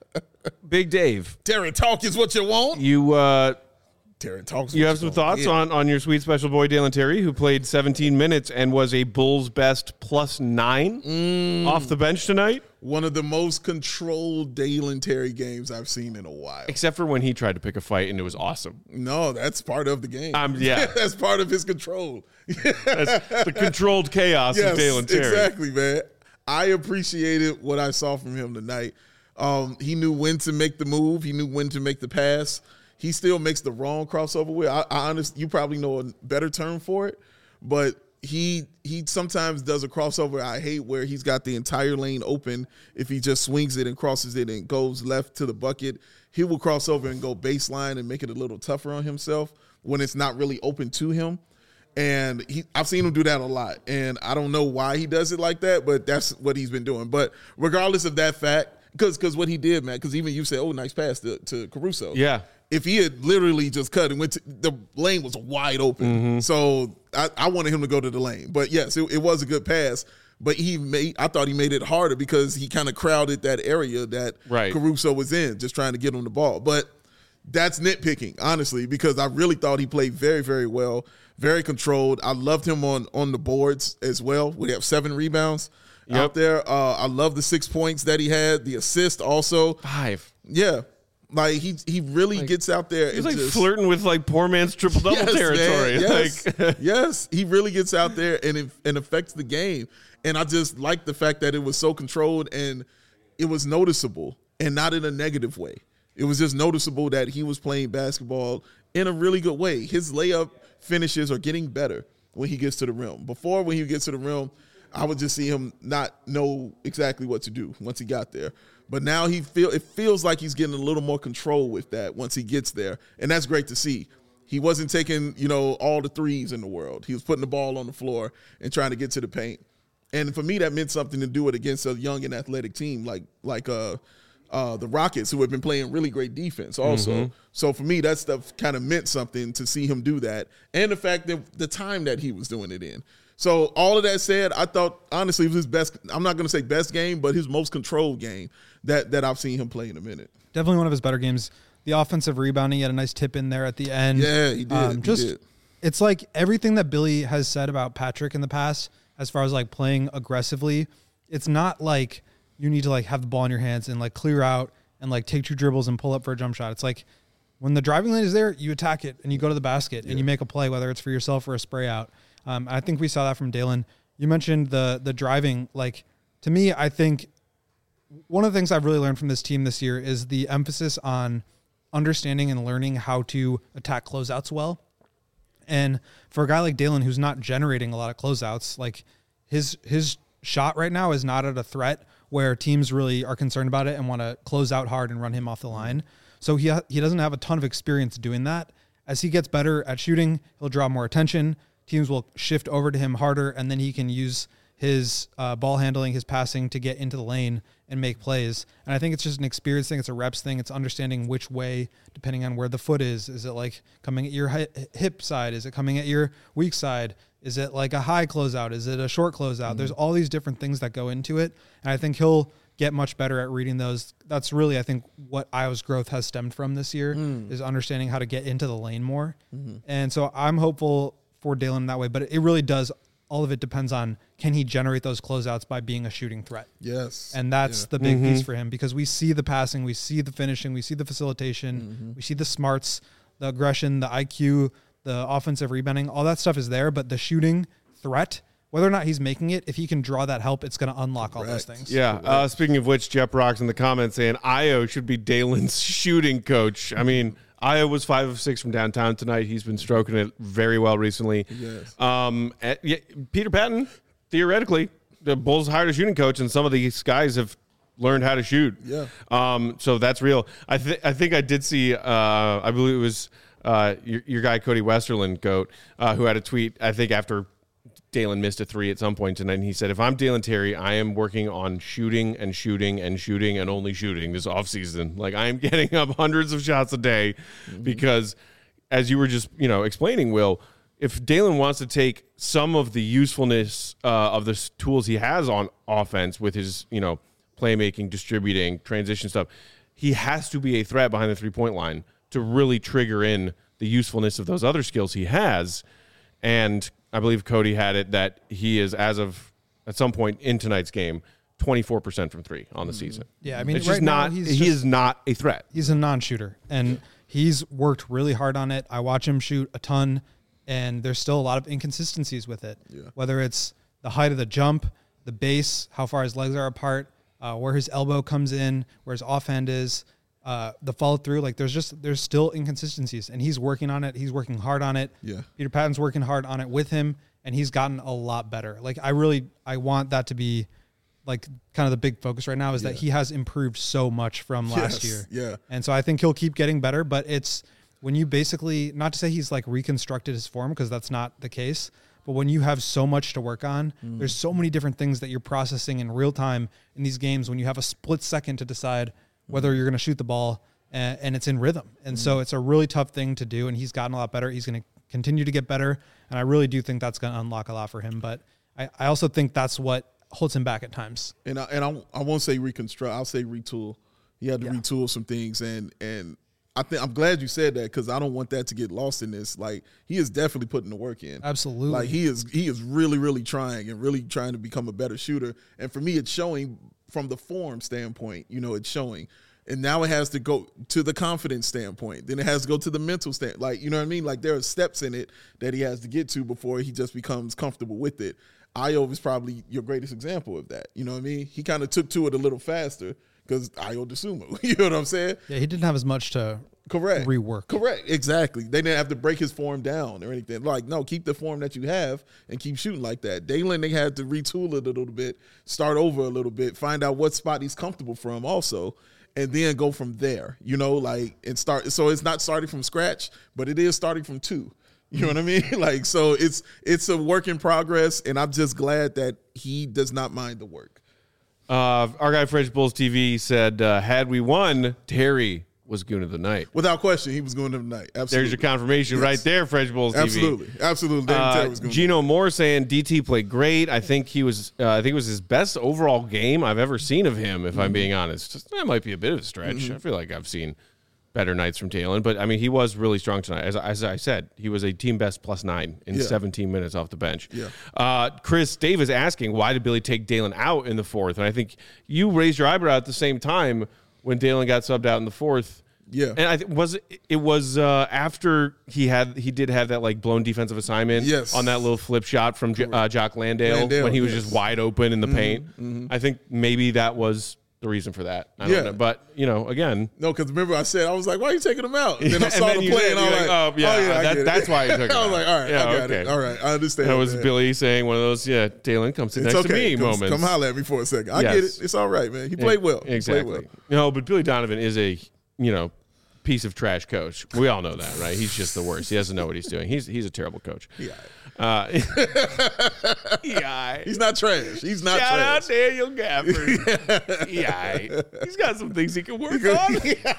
Big Dave, Terry talk is what you want. you uh, Terry talks. you what have some want. thoughts Yeah. on, on your sweet special boy, Dalen Terry, who played seventeen minutes and was a Bulls best plus nine Mm. off the bench tonight, one of the most controlled Dalen Terry games I've seen in a while. except for when he tried to pick a fight and it was awesome. No, that's part of the game. Um, yeah. that's part of his control. That's the controlled chaos Yes, of Dalen Terry. exactly, man. I appreciated what I saw from him tonight. Um, he knew when to make the move. He knew when to make the pass. He still makes the wrong crossover with. I, I honest, you probably know a better term for it, but he he sometimes does a crossover I hate where he's got the entire lane open. If he just swings it and crosses it and goes left to the bucket, he will cross over and go baseline and make it a little tougher on himself when it's not really open to him. And he, I've seen him do that a lot. And I don't know why he does it like that, but that's what he's been doing. But regardless of that fact, because because what he did, man, because even you said, oh, nice pass to, to Caruso. Yeah. If he had literally just cut and went to, the lane was wide open. Mm-hmm. So I, I wanted him to go to the lane. But yes, it, it was a good pass. But he made, I thought he made it harder because he kind of crowded that area that Right. Caruso was in, just trying to get him the ball. But that's nitpicking, honestly, because I really thought he played very, very well, very controlled. I loved him on on the boards as well. We have seven rebounds Yep. out there. Uh, I love the six points that he had, the assist also. Five. Yeah. Like he he really gets out there. He's and like just, flirting with like poor man's triple double Yes, man. territory. Yes. Like, yes, he really gets out there and it, and affects the game. And I just like the fact that it was so controlled and it was noticeable, and not in a negative way. It was just noticeable that he was playing basketball in a really good way. His layup finishes are getting better when he gets to the rim. Before, when he gets to the rim, I would just see him not know exactly what to do once he got there. But now he feel it feels like he's getting a little more control with that once he gets there, and that's great to see. He wasn't taking, you know, all the threes in the world. He was putting the ball on the floor and trying to get to the paint. And for me, that meant something to do it against a young and athletic team like like uh, uh, the Rockets, who have been playing really great defense also. Mm-hmm. So for me, that stuff kind of meant something to see him do that, and the fact that the time that he was doing it in. So all of that said, I thought, honestly, it was his best – I'm not going to say best game, but his most controlled game that, that I've seen him play in a minute. Definitely one of his better games. The offensive rebounding, he had a nice tip in there at the end. Yeah, he did. Um, he just, did. It's like everything that Billy has said about Patrick in the past as far as, like, playing aggressively. It's not like you need to, like, have the ball in your hands and, like, clear out and, like, take two dribbles and pull up for a jump shot. It's like when the driving lane is there, you attack it and you go to the basket yeah. and you make a play, whether it's for yourself or a spray out. Um, I think we saw that from Dalen. You mentioned the the driving. Like, to me, I think one of the things I've really learned from this team this year is the emphasis on understanding and learning how to attack closeouts well. And for a guy like Dalen, who's not generating a lot of closeouts, like his his shot right now is not at a threat where teams really are concerned about it and want to close out hard and run him off the line. So he ha- he doesn't have a ton of experience doing that. As he gets better at shooting, he'll draw more attention. Teams will shift over to him harder, and then he can use his uh, ball handling, his passing to get into the lane and make plays. And I think it's just an experience thing. It's a reps thing. It's understanding which way, depending on where the foot is. Is it like coming at your hip side? Is it coming at your weak side? Is it like a high closeout? Is it a short closeout? Mm-hmm. There's all these different things that go into it. And I think he'll get much better at reading those. That's really, I think, what Iowa's growth has stemmed from this year mm. is understanding how to get into the lane more. Mm-hmm. And so I'm hopeful for Dalen in that way, but it really does. All of it depends on, can he generate those closeouts by being a shooting threat? Yes. And that's yeah. the big mm-hmm. piece for him, because we see the passing, we see the finishing, we see the facilitation, mm-hmm. we see the smarts, the aggression, the I Q, the offensive rebounding, all that stuff is there, but the shooting threat, whether or not he's making it, if he can draw that help, it's going to unlock Correct. all those things. Yeah. Uh, speaking of which, Jeff Rocks in the comments saying Io should be Dalen's shooting coach. I mean, Io was five of six from downtown tonight. He's been stroking it very well recently. Yes. Um, at, yeah, Peter Patton, theoretically, the Bulls hired a shooting coach, and some of these guys have learned how to shoot. Yeah. Um, so that's real. I, th- I think I did see, uh, I believe it was uh, your, your guy, Cody Westerland, Goat, uh, who had a tweet, I think, after Dalen missed a three at some point tonight, and he said, if I'm Dalen Terry, I am working on shooting and shooting and shooting and only shooting this offseason. Like, I am getting up hundreds of shots a day mm-hmm. because, as you were just, you know, explaining, Will, if Dalen wants to take some of the usefulness uh, of the tools he has on offense with his, you know, playmaking, distributing, transition stuff, he has to be a threat behind the three-point line to really trigger in the usefulness of those other skills he has. And I believe Cody had it that he is, as of at some point in tonight's game, twenty-four percent from three on the season. Yeah, I mean, it's right just now not. he's he just, is not a threat. He's a non-shooter, and he's worked really hard on it. I watch him shoot a ton, and there's still a lot of inconsistencies with it. Yeah. Whether it's the height of the jump, the base, how far his legs are apart, uh, where his elbow comes in, where his offhand is. Uh, the follow through, like there's just there's still inconsistencies, and he's working on it. He's working hard on it. Yeah, Peter Patton's working hard on it with him, and he's gotten a lot better. Like I really I want that to be like kind of the big focus right now is yeah. that he has improved so much from last yes. year. Yeah, and so I think he'll keep getting better. But it's when you basically, not to say he's like reconstructed his form, because that's not the case. But when you have so much to work on, mm. there's so many different things that you're processing in real time in these games when you have a split second to decide whether you're going to shoot the ball, and, and it's in rhythm. And mm-hmm. so it's a really tough thing to do, and he's gotten a lot better. He's going to continue to get better, and I really do think that's going to unlock a lot for him. But I, I also think that's what holds him back at times. And I, and I, I won't say reconstruct. I'll say retool. He had to yeah. retool some things, and and I think I'm glad you said that, because I don't want that to get lost in this. Like, he is definitely putting the work in. Absolutely. Like he is he is really really trying and really trying to become a better shooter. And for me, it's showing from the form standpoint. You know, it's showing. And now it has to go to the confidence standpoint. Then it has to go to the mental stand. Like, you know what I mean? Like, there are steps in it that he has to get to before he just becomes comfortable with it. Io is probably your greatest example of that. You know what I mean? He kind of took to it a little faster, because Ayo Dosunmu. You know what I'm saying? Yeah, he didn't have as much to Correct. rework. Correct. Exactly. They didn't have to break his form down or anything. Like, no, keep the form that you have and keep shooting like that. Dalen, they had to retool it a little bit, start over a little bit, find out what spot he's comfortable from also, and then go from there, you know, like, and start. So it's not starting from scratch, but it is starting from two. You know what I mean? Like, so it's it's a work in progress, and I'm just glad that he does not mind the work. Uh, our guy French Bulls T V said, uh, had we won, Terry was goon of the night. Without question, he was going to the night. Absolutely. There's your confirmation Yes. right there, French Bulls T V. Absolutely. Absolutely. David Uh, Terry was going Gino Moore saying D T played great. I think he was. Uh, I think it was his best overall game I've ever seen of him. If Mm-hmm. I'm being honest, Just, that might be a bit of a stretch. Mm-hmm. I feel like I've seen better nights from Dalen, but I mean he was really strong tonight. As, as I said, he was a team best plus nine in Yeah. seventeen minutes off the bench. Yeah. Uh, Chris Davis asking why did Billy take Dalen out in the fourth, and I think you raised your eyebrow at the same time when Dalen got subbed out in the fourth. Yeah. And I th- was it, it was uh, after he had he did have that like blown defensive assignment Yes. on that little flip shot from J- uh, Jock Landale, Landale, when he was yes. just wide open in the paint. I think maybe that was the reason for that. I don't Yeah. know. But you know, again, No, because remember I said, I was like, why are you taking him out? And then I And saw then the you play said- and I was you're like, like, oh, yeah, I that- get it. that's why you took him I was out. like, all right, Yeah, I got okay. it. All right, I understand. that was man. Billy saying one of those, yeah, Dalen, come sit It's next okay. to me Come, moments. come holler at me for a second. I Yes. get it. It's all right, man. He played well. He played Exactly. well. No, but Billy Donovan is a, you know, piece of trash coach. We all know that, right? He's just the worst. He doesn't know what he's doing. He's he's a terrible coach. Yeah. Uh, yeah. He's not trash. He's not Shout out trash. Daniel Gafford. yeah. He's got some things he can work on.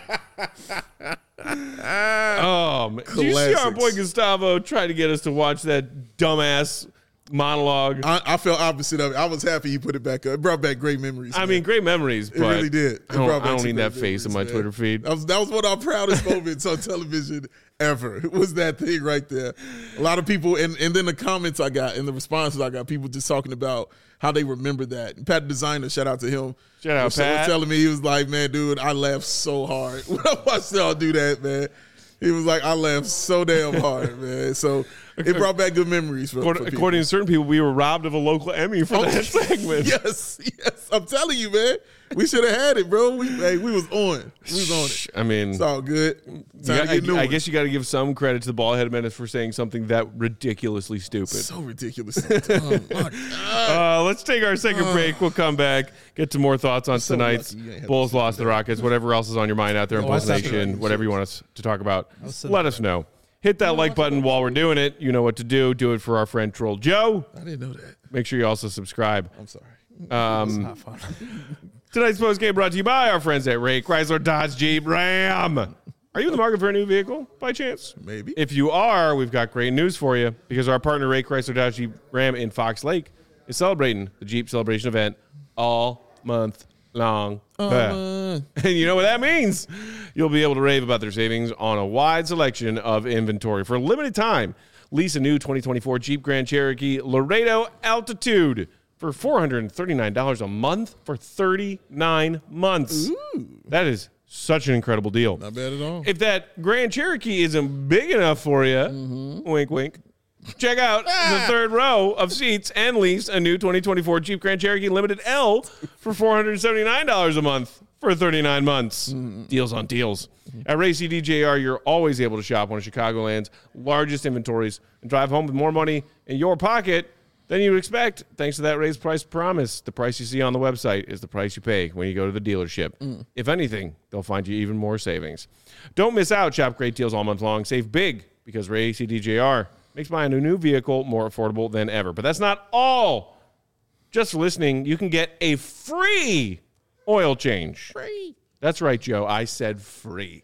Oh, man. Did you see our Classics. boy Gustavo trying to get us to watch that dumbass monologue? I, I felt opposite of it. I was happy he put it back up. It brought back great memories. I man. mean, great memories, It but really did. It I don't, brought back I don't some need great that face in my memories, Twitter man. feed. That was, that was one of our proudest moments on television ever. It was that thing right there. A lot of people, and, and then the comments I got and the responses I got, people just talking about how they remember that. Pat Designer, shout out to him. Shout out, was, was Pat. telling me, he was like, man, dude, I laughed so hard when I watched y'all do that, man. He was like, I laughed so damn hard, man. So it brought back good memories for, According, for people. according to certain people, we were robbed of a local Emmy for Oh, that segment. Yes, yes. I'm telling you, man. We should have had it, bro. We hey, we was on. We was on it. I mean, It's all good. Time you to got- get new I, I ones. guess you got to give some credit to the ball-headed menace for saying something that ridiculously stupid. So ridiculous. Oh, my God. Uh, let's take our second break. We'll come back, get to more thoughts on So tonight's lucky you ain't have Bulls to lost the Rockets, whatever else is on your mind out there in Oh, Bulls I stopped Nation, it. whatever you want us to talk about, sitting let us know. Hit that like button while we're doing it. You know what to do. Do it for our friend Troll Joe. I didn't know that. Make sure you also subscribe. I'm sorry. Um, Not fun. Tonight's post game brought to you by our friends at Ray Chrysler Dodge Jeep Ram. Are you in the market for a new vehicle by chance? Maybe. If you are, we've got great news for you because our partner Ray Chrysler Dodge Jeep Ram in Fox Lake is celebrating the Jeep Celebration event all month long. Uh, And you know what that means? You'll be able to rave about their savings on a wide selection of inventory. For a limited time, lease a new twenty twenty-four Jeep Grand Cherokee Laredo Altitude for four hundred thirty-nine dollars a month for thirty-nine months. That is such an incredible deal. not bad at all. If that Grand Cherokee isn't big enough for you, wink, wink, check out the third row of seats and lease a new twenty twenty-four Jeep Grand Cherokee Limited L for four hundred seventy-nine dollars a month for thirty-nine months. Deals on deals. At Ray C D J R, you're always able to shop one of Chicagoland's largest inventories and drive home with more money in your pocket than you would expect, thanks to that raised price promise. The price you see on the website is the price you pay when you go to the dealership. If anything, they'll find you even more savings. Don't miss out. Shop great deals all month long. Save big because Ray C D J R makes buying a new vehicle more affordable than ever. But that's not all. Just for listening, you can get a free oil change. Free. That's right, Joe. I said free.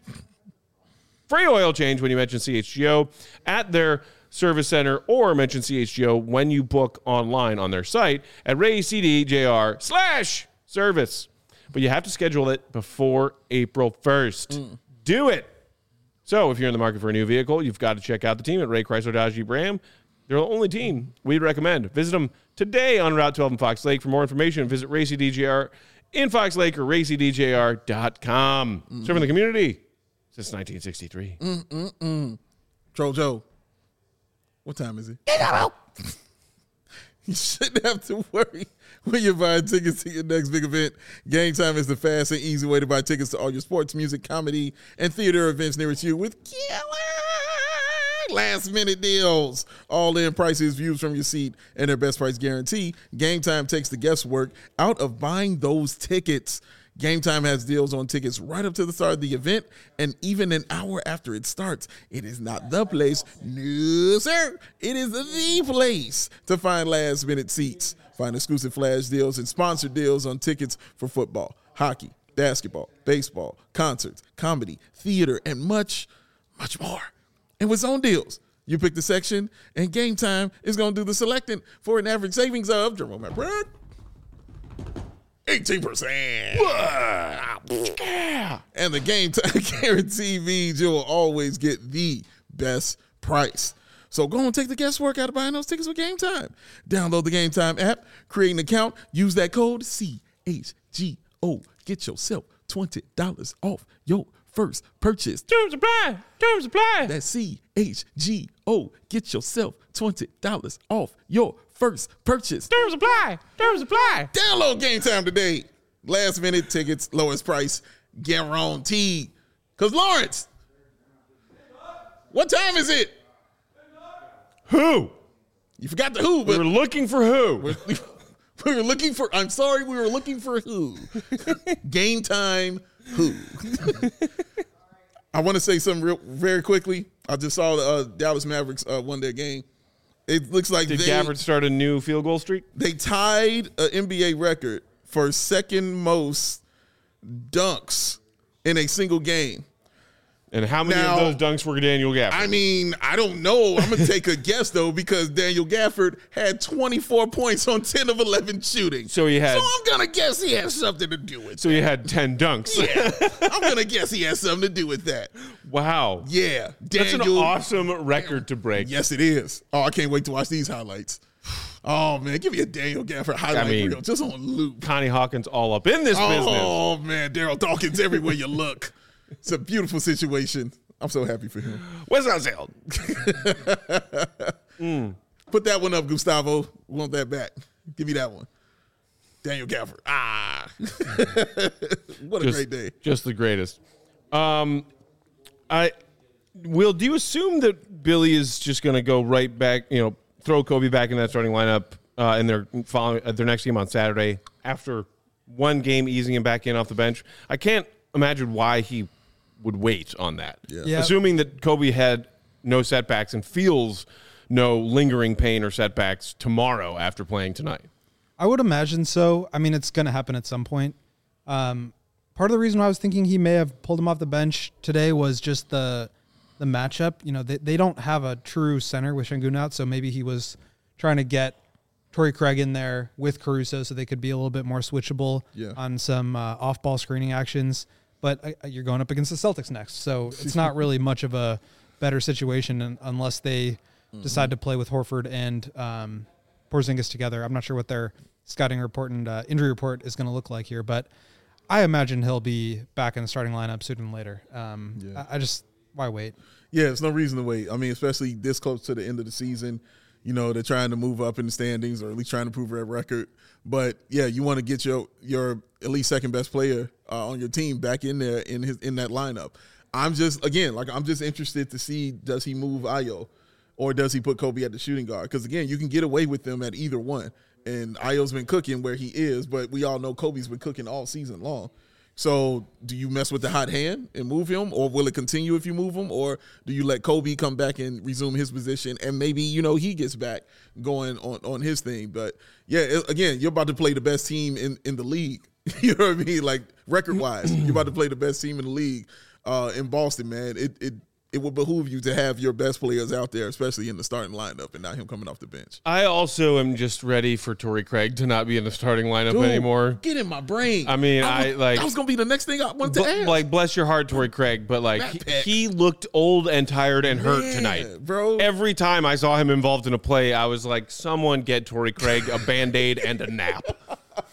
Free oil change when you mention C H G O at their service center or mention C H G O when you book online on their site at raycdjr slash service. But you have to schedule it before April first. Mm. Do it. So if you're in the market for a new vehicle, you've got to check out the team at Ray Chrysler Dodge Jeep Ram. They're the only team we'd recommend. Visit them today on Route twelve in Fox Lake. For more information, visit Ray C D J R in Fox Lake or ray c d j r dot com. Mm-hmm. Serving the community since nineteen sixty-three. Mm-mm-mm. Troll Joe, what time is it? You shouldn't have to worry when you're buying tickets to your next big event. Game Time is the fast and easy way to buy tickets to all your sports, music, comedy, and theater events nearest you with killer last-minute deals. All-in prices, views from your seat, and their best price guarantee. Game Time takes the guesswork out of buying those tickets. Game Time has deals on tickets right up to the start of the event and even an hour after it starts. It is not the place. No, sir. It is the place to find last-minute seats. Find exclusive flash deals and sponsored deals on tickets for football, hockey, basketball, baseball, concerts, comedy, theater, and much, much more. And with zone deals, you pick the section, and Game Time is going to do the selecting for an average savings of, Jerome Brad, eighteen percent. And the Game Time guarantee means you'll always get the best price. So go and take the guesswork out of buying those tickets with Game Time. Download the Game Time app, create an account, use that code C H G O. Get yourself twenty dollars off your first purchase. Terms apply. Terms apply. That's C H G O. Get yourself twenty dollars off your first purchase. Terms apply. Terms apply. Download Game Time today. Last minute tickets, lowest price, guaranteed. Because Lawrence, what time is it? Who? You forgot the who, We but were looking for who? we were looking for, I'm sorry, we were looking for who. Game Time who. I want to say something real very quickly. I just saw the uh, Dallas Mavericks uh, won their game. It looks like Did they, Gafford start a new field goal streak? they tied an N B A record for second most dunks in a single game. And how many Now- of those dunks were Daniel Gafford? I mean, I don't know. I'm going to take a guess, though, because Daniel Gafford had twenty-four points on ten of eleven shooting. So he had- So I'm going to guess he has something to do with so you had ten dunks. Yeah. I'm going to guess he has something to do with that. Wow. Yeah. That's an Daniel. awesome record to break. Yes, it is. Oh, I can't wait to watch these highlights. Oh, man. Give me a Daniel Gafford highlight I mean, reel just on loop. Connie Hawkins all up in this business. Oh, man. Daryl Dawkins everywhere you look. It's a beautiful situation. I'm so happy for him. Where's that sound? mm. Put that one up, Gustavo. We want that back. Give me that one. Daniel Gafford. Ah. What a Just, great day. Just the greatest. Um, I Will, do you assume that Billy is just going to go right back, you know, throw Kobe back in that starting lineup uh, in their following uh, their next game on Saturday after one game easing him back in off the bench? I can't imagine why he would wait on that. Yeah. Yeah. Assuming that Kobe had no setbacks and feels no lingering pain or setbacks tomorrow after playing tonight. I would imagine so. I mean, it's going to happen at some point. Um, part of the reason why I was thinking he may have pulled him off the bench today was just the the matchup. You know, they, they don't have a true center with Şengün out, so maybe he was trying to get Torrey Craig in there with Caruso so they could be a little bit more switchable Yeah. on some uh, off-ball screening actions. But uh, you're going up against the Celtics next, so it's not really much of a better situation un- unless they mm-hmm. decide to play with Horford and um, Porzingis together. I'm not sure what their scouting report and uh, injury report is going to look like here, but I imagine he'll be back in the starting lineup sooner than later. Um, Yeah. I, I just, why wait? Yeah, there's no reason to wait. I mean, especially this close to the end of the season. You know, they're trying to move up in the standings or at least trying to prove their record. But, yeah, you want to get your your at least second best player uh, on your team back in there in his in that lineup. I'm just, again, like I'm just interested to see, does he move Ayo or does he put Kobe at the shooting guard? Because, again, you can get away with them at either one. And Ayo's been cooking where he is, but we all know Kobe's been cooking all season long. So do you mess with the hot hand and move him, or will it continue if you move him, or do you let Kobe come back and resume his position and maybe, you know, he gets back going on, on his thing? But, yeah, it, again, you're about to play the best team in, in the league. You know what I mean? Like, record-wise, you're about to play the best team in the league uh, in Boston, man. It it it would behoove you to have your best players out there, especially in the starting lineup, and not him coming off the bench. I also am just ready for Torrey Craig to not be in the starting lineup Dude, anymore. Get in my brain. I mean, I, was, I, like- that was gonna be the next thing I wanted to Bl- ask. like, bless your heart, Torrey Craig, but like he, Backpack. he looked old and tired and hurt Man, tonight, bro. Every time I saw him involved in a play, I was like, "Someone get Torrey Craig a Band-Aid and a nap." And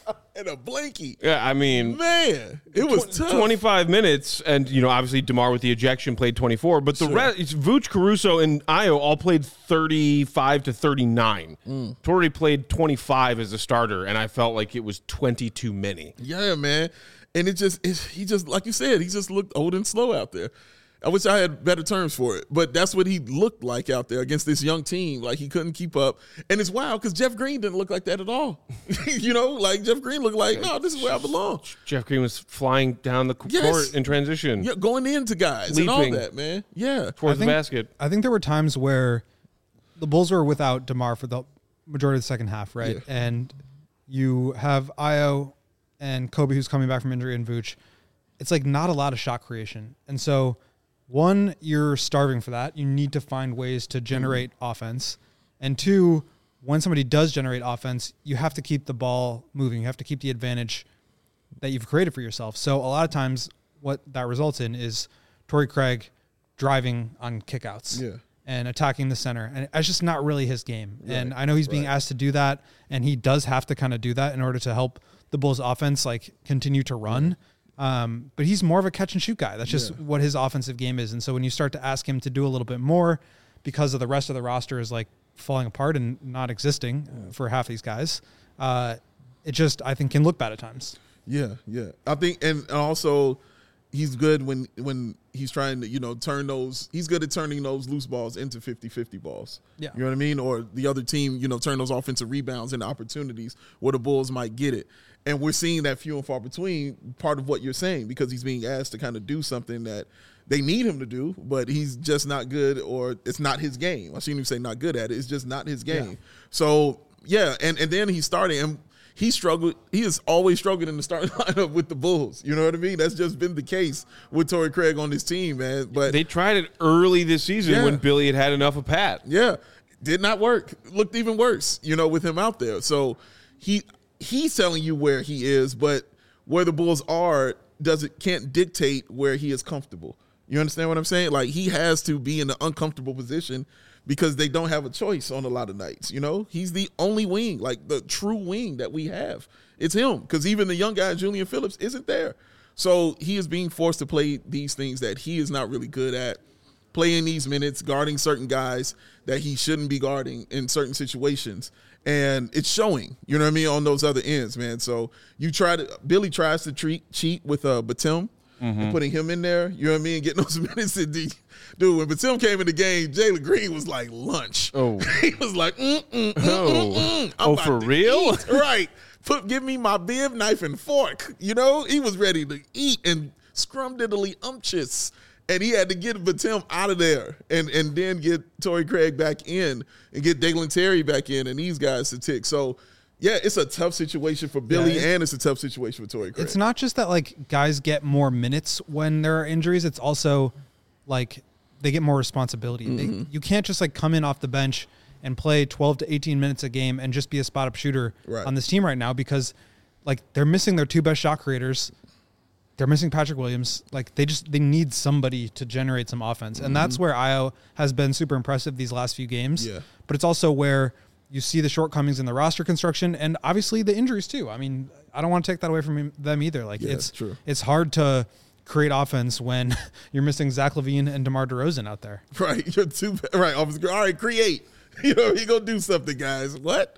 and a blankie. Yeah, I mean, Man, it was tw- tough. twenty-five minutes, and you know, obviously DeMar with the ejection played twenty-four, but the Sure. rest, Vooch, Caruso, and Ayo all played thirty-five to thirty-nine. Mm. Torrey played twenty-five as a starter, and I felt like it was twenty too many. Yeah, man. And it just, it, he just, like you said, he just looked old and slow out there. I wish I had better terms for it, but that's what he looked like out there against this young team. Like he couldn't keep up. And it's wild because Jeff Green didn't look like that at all. You know, like Jeff Green looked like, no, this is where I belong. Jeff Green was flying down the c- Yes. court in transition Yeah, going into guys and all Leaping. that, man. Yeah. towards the think- basket. I think there were times where the Bulls were without DeMar for the majority of the second half, right? Yeah. And you have Ayo and Kobe who's coming back from injury and Vooch. It's like not a lot of shot creation. And so one, you're starving for that. You need to find ways to generate Mm-hmm. offense. And two, when somebody does generate offense, you have to keep the ball moving. You have to keep the advantage that you've created for yourself. So a lot of times what that results in is Torrey Craig driving on kickouts Yeah. and attacking the center. And it's just not really his game. And I know he's being right. asked to do that, and he does have to kind of do that in order to help the Bulls offense like continue to run. Um, but he's more of a catch and shoot guy. That's just Yeah. what his offensive game is. And so when you start to ask him to do a little bit more because of the rest of the roster is like falling apart and not existing uh, for half these guys, uh, it just, I think, can look bad at times. Yeah, yeah. I think, and also he's good when when he's trying to, you know, turn those, he's good at turning those loose balls into fifty-fifty balls. Yeah. You know what I mean? Or the other team, you know, turn those offensive rebounds into opportunities where the Bulls might get it. And we're seeing that few and far between, part of what you're saying, because he's being asked to kind of do something that they need him to do, but he's just not good, or it's not his game. I shouldn't even say not good at it. It's just not his game. Yeah. So, yeah, and, and then he's starting, and he struggled. He has always struggled in the starting lineup with the Bulls. You know what I mean? That's just been the case with Torrey Craig on this team, man. But They tried it early this season Yeah. when Billy had had enough of Pat. yeah, did not work. Looked even worse, you know, with him out there. So he he's telling you where he is, but where the Bulls are does it can't dictate where he is comfortable. You understand what I'm saying? Like he has to be in an uncomfortable position because they don't have a choice on a lot of nights. You know, he's the only wing, like the true wing that we have. It's him, because even the young guy, Julian Phillips, isn't there. So he is being forced to play these things that he is not really good at, playing these minutes, guarding certain guys that he shouldn't be guarding in certain situations. And it's showing, you know what I mean, on those other ends, man. So you try to, Billy tries to treat, cheat with uh, Batum Mm-hmm. and putting him in there, you know what I mean, getting those minutes. In the, dude, when Batum came in the game, Jalen Green was like lunch. Oh. He was like, mm, mm, mm, Oh. mm, mm. I'm Oh, about for to real? eat. Right. Put, give me my bib, knife, and fork. You know, he was ready to eat and scrum-diddly umptious. And he had to get Batum out of there and, and then get Torrey Craig back in and get Dalen Terry back in and these guys to tick. So, yeah, it's a tough situation for Billy, Yeah, it- and it's a tough situation for Torrey Craig. It's not just that like guys get more minutes when there are injuries. It's also like they get more responsibility. Mm-hmm. They, you can't just like come in off the bench and play twelve to eighteen minutes a game and just be a spot up shooter Right. on this team right now, because like they're missing their two best shot creators. They're missing Patrick Williams. Like they just they need somebody to generate some offense, and that's where Ayo has been super impressive these last few games. Yeah. But it's also where you see the shortcomings in the roster construction, and obviously the injuries too. I mean, I don't want to take that away from him- them either. Like Yeah, it's true. it's hard to create offense when you're missing Zach LaVine and DeMar DeRozan out there. Right, you're too right. Officer, all right, create. You know, you gonna do something, guys. What?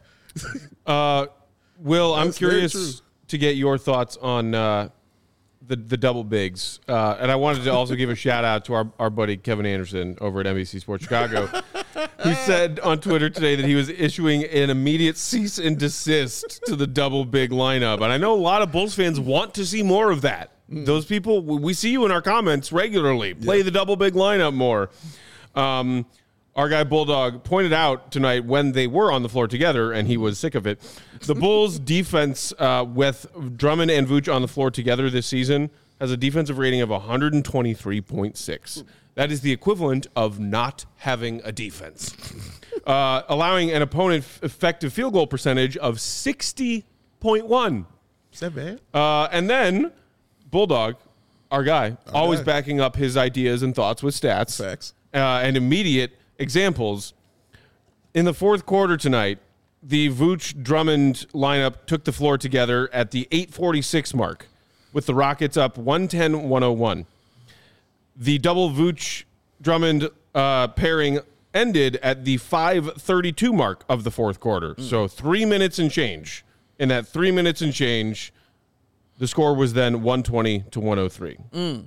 Uh, Will, I'm That's very curious true. to get your thoughts on uh, the the double bigs, uh, and I wanted to also give a shout out to our, our buddy Kevin Anderson over at N B C Sports Chicago, who said on Twitter today that he was issuing an immediate cease and desist to the double big lineup, and I know a lot of Bulls fans want to see more of that. Those people, we see you in our comments regularly. Play the double big lineup more. Um, Our guy Bulldog pointed out tonight when they were on the floor together, and he was sick of it. The Bulls' defense uh, with Drummond and Vooch on the floor together this season has a defensive rating of one twenty-three point six. That is the equivalent of not having a defense, uh, allowing an opponent f- effective field goal percentage of sixty point one. Is that bad? Uh, and then Bulldog, our guy, always guy. backing up his ideas and thoughts with stats Facts. uh, and immediate examples. In the fourth quarter tonight, the Vooch Drummond lineup took the floor together at the eight forty-six mark, with the Rockets up one ten one oh one. The double Vooch Drummond uh, pairing ended at the five thirty-two mark of the fourth quarter. Mm. So three minutes and change. In that three minutes and change, the score was then one twenty to one oh three. Mm.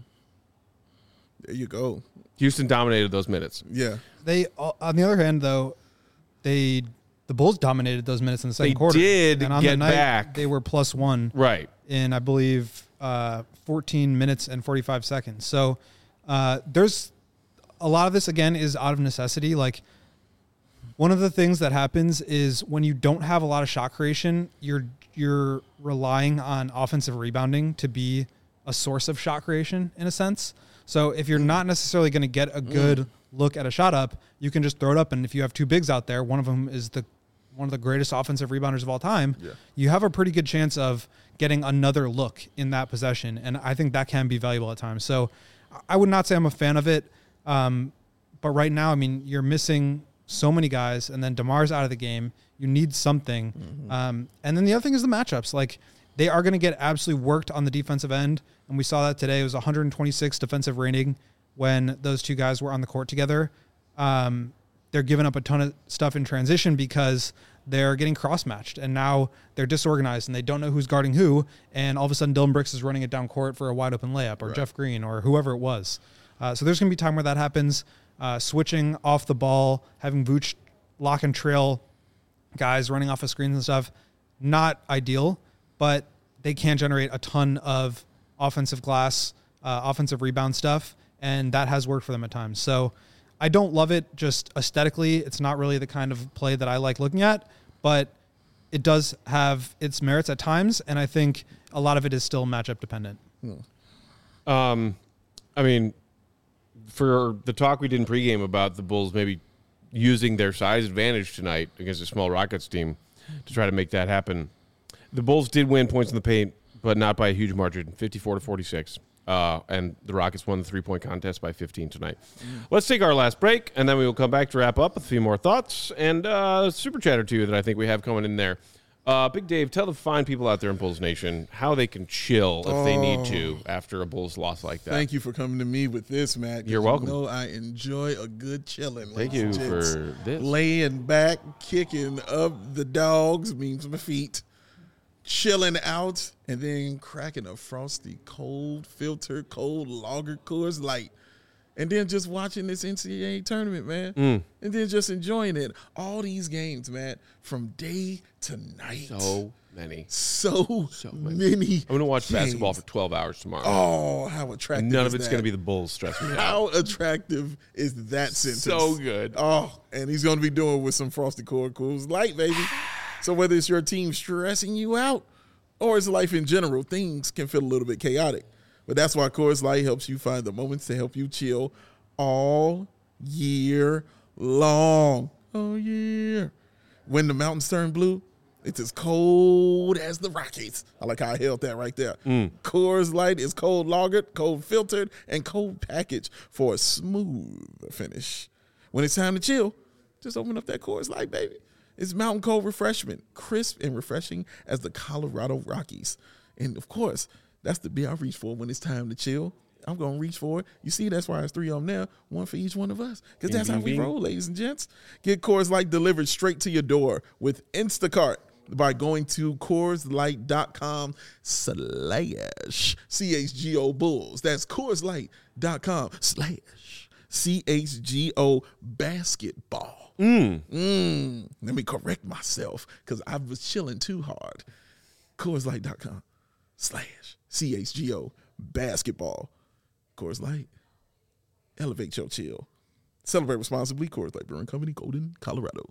There you go. Houston dominated those minutes. Yeah. They, on the other hand, though, they the Bulls dominated those minutes in the second They quarter. did and on get the night, back. They were plus one. Right. In, I believe, uh, fourteen minutes and forty-five seconds. So uh, there's a lot of this, again, is out of necessity. Like, one of the things that happens is when you don't have a lot of shot creation, you're you're relying on offensive rebounding to be a source of shot creation, in a sense. So if you're not necessarily going to get a good mm. look at a shot up, you can just throw it up. And if you have two bigs out there, one of them is the one of the greatest offensive rebounders of all time, yeah. you have a pretty good chance of getting another look in that possession. And I think that can be valuable at times. So I would not say I'm a fan of it. Um, but right now, I mean, you're missing so many guys, and then DeMar's out of the game. You need something. Mm-hmm. Um, and then the other thing is the matchups. Like, they are going to get absolutely worked on the defensive end. And we saw that today. It was one twenty-six defensive rating when those two guys were on the court together. Um, they're giving up a ton of stuff in transition because they're getting cross-matched. And now they're disorganized and they don't know who's guarding who. And all of a sudden, Dillon Brooks is running it down court for a wide-open layup, or right. Jeff Green, or whoever it was. Uh, so there's going to be time where that happens. Uh, switching off the ball, having Vooch lock and trail guys running off of screens and stuff, not ideal, but they can generate a ton of offensive glass, uh, offensive rebound stuff, and that has worked for them at times. So I don't love it just aesthetically. It's not really the kind of play that I like looking at, but it does have its merits at times, and I think a lot of it is still matchup dependent. Hmm. Um, I mean, for the talk we did in pregame about the Bulls maybe using their size advantage tonight against a small Rockets team to try to make that happen, the Bulls did win points in the paint, but not by a huge margin, fifty-four to forty-six. Uh, and the Rockets won the three-point contest by fifteen tonight. Mm. Let's take our last break, and then we will come back to wrap up with a few more thoughts and uh, a super chat or two that I think we have coming in there. Uh, Big Dave, tell the fine people out there in Bulls Nation how they can chill if oh. they need to after a Bulls loss like that. Thank you for coming to me with this, Matt. You're welcome. You know I enjoy a good chilling. Thank you for this. Laying back, kicking up the dogs, means my feet, chilling out, and then cracking a frosty, cold, filtered, cold lager Coors Light. And then just watching this N C double A tournament, man. Mm. And then just enjoying it. All these games, man, from day to night. So many. So, so many. many. I'm going to watch games. basketball for twelve hours tomorrow. Oh, how attractive None is of it's going to be the Bulls stressing me out. How attractive is that sentence? So good. Oh, and he's going to be doing it with some Frosty Coors Light, baby. So whether it's your team stressing you out or it's life in general, things can feel a little bit chaotic. But that's why Coors Light helps you find the moments to help you chill all year long. Oh, yeah. When the mountains turn blue, it's as cold as the Rockies. I like how I held that right there. Mm. Coors Light is cold lagered, cold filtered, and cold packaged for a smooth finish. When it's time to chill, just open up that Coors Light, baby. It's mountain cold refreshment, crisp and refreshing as the Colorado Rockies. And, of course, that's the beer I reach for when it's time to chill. I'm going to reach for it. You see, that's why there's three of them now, one for each one of us. Because that's how we roll, ladies and gents. Get Coors Light delivered straight to your door with Instacart by going to CoorsLight.com slash C H G O Bulls. That's CoorsLight.com slash C H G O Basketball. Mm. Mm. Let me correct myself because I was chilling too hard. CoorsLight.com slash C H G O Basketball. Coors Light. Elevate your chill. Celebrate responsibly. Coors Light Brewing Company, Golden, Colorado.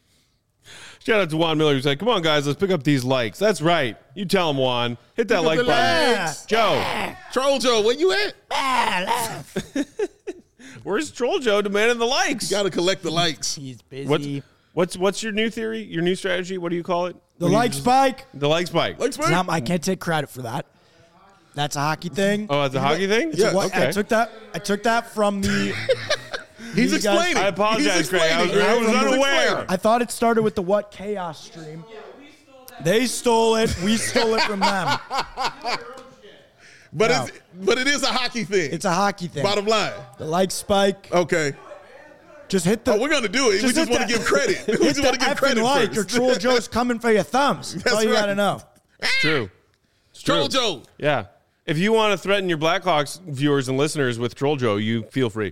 Shout out to Juan Miller who's like, come on, guys, let's pick up these likes. That's right. You tell him, Juan. Hit that pick like button. Likes. Joe. Troll Joe, where you at? Where's Troll Joe demanding the likes? You got to collect the likes. He's busy. What's, what's what's your new theory, your new strategy? What do you call it? The when like spike. The like spike. Like spike? Not, I can't take credit for that. That's a hockey thing. Oh, it's a hockey thing? Yeah, what, okay. I took that. I took that from the. He's You guys- explaining. I apologize, He's Greg. I was, explaining. I was He's unaware. explaining. I thought it started with the What Chaos stream. They stole it. We stole it from them. But No. it's but it is a hockey thing. It's a hockey thing. Bottom line. The like spike. Okay. Just hit the. Oh, we're gonna do it. we Just just hit want to the- give credit. We hit just the want to give effing credit like, first. or Troll Joe's coming for your thumbs. That's, That's all you right. gotta know. It's true. It's Troll true. Joe. Yeah. If you want to threaten your Blackhawks viewers and listeners with Troll Joe, you feel free.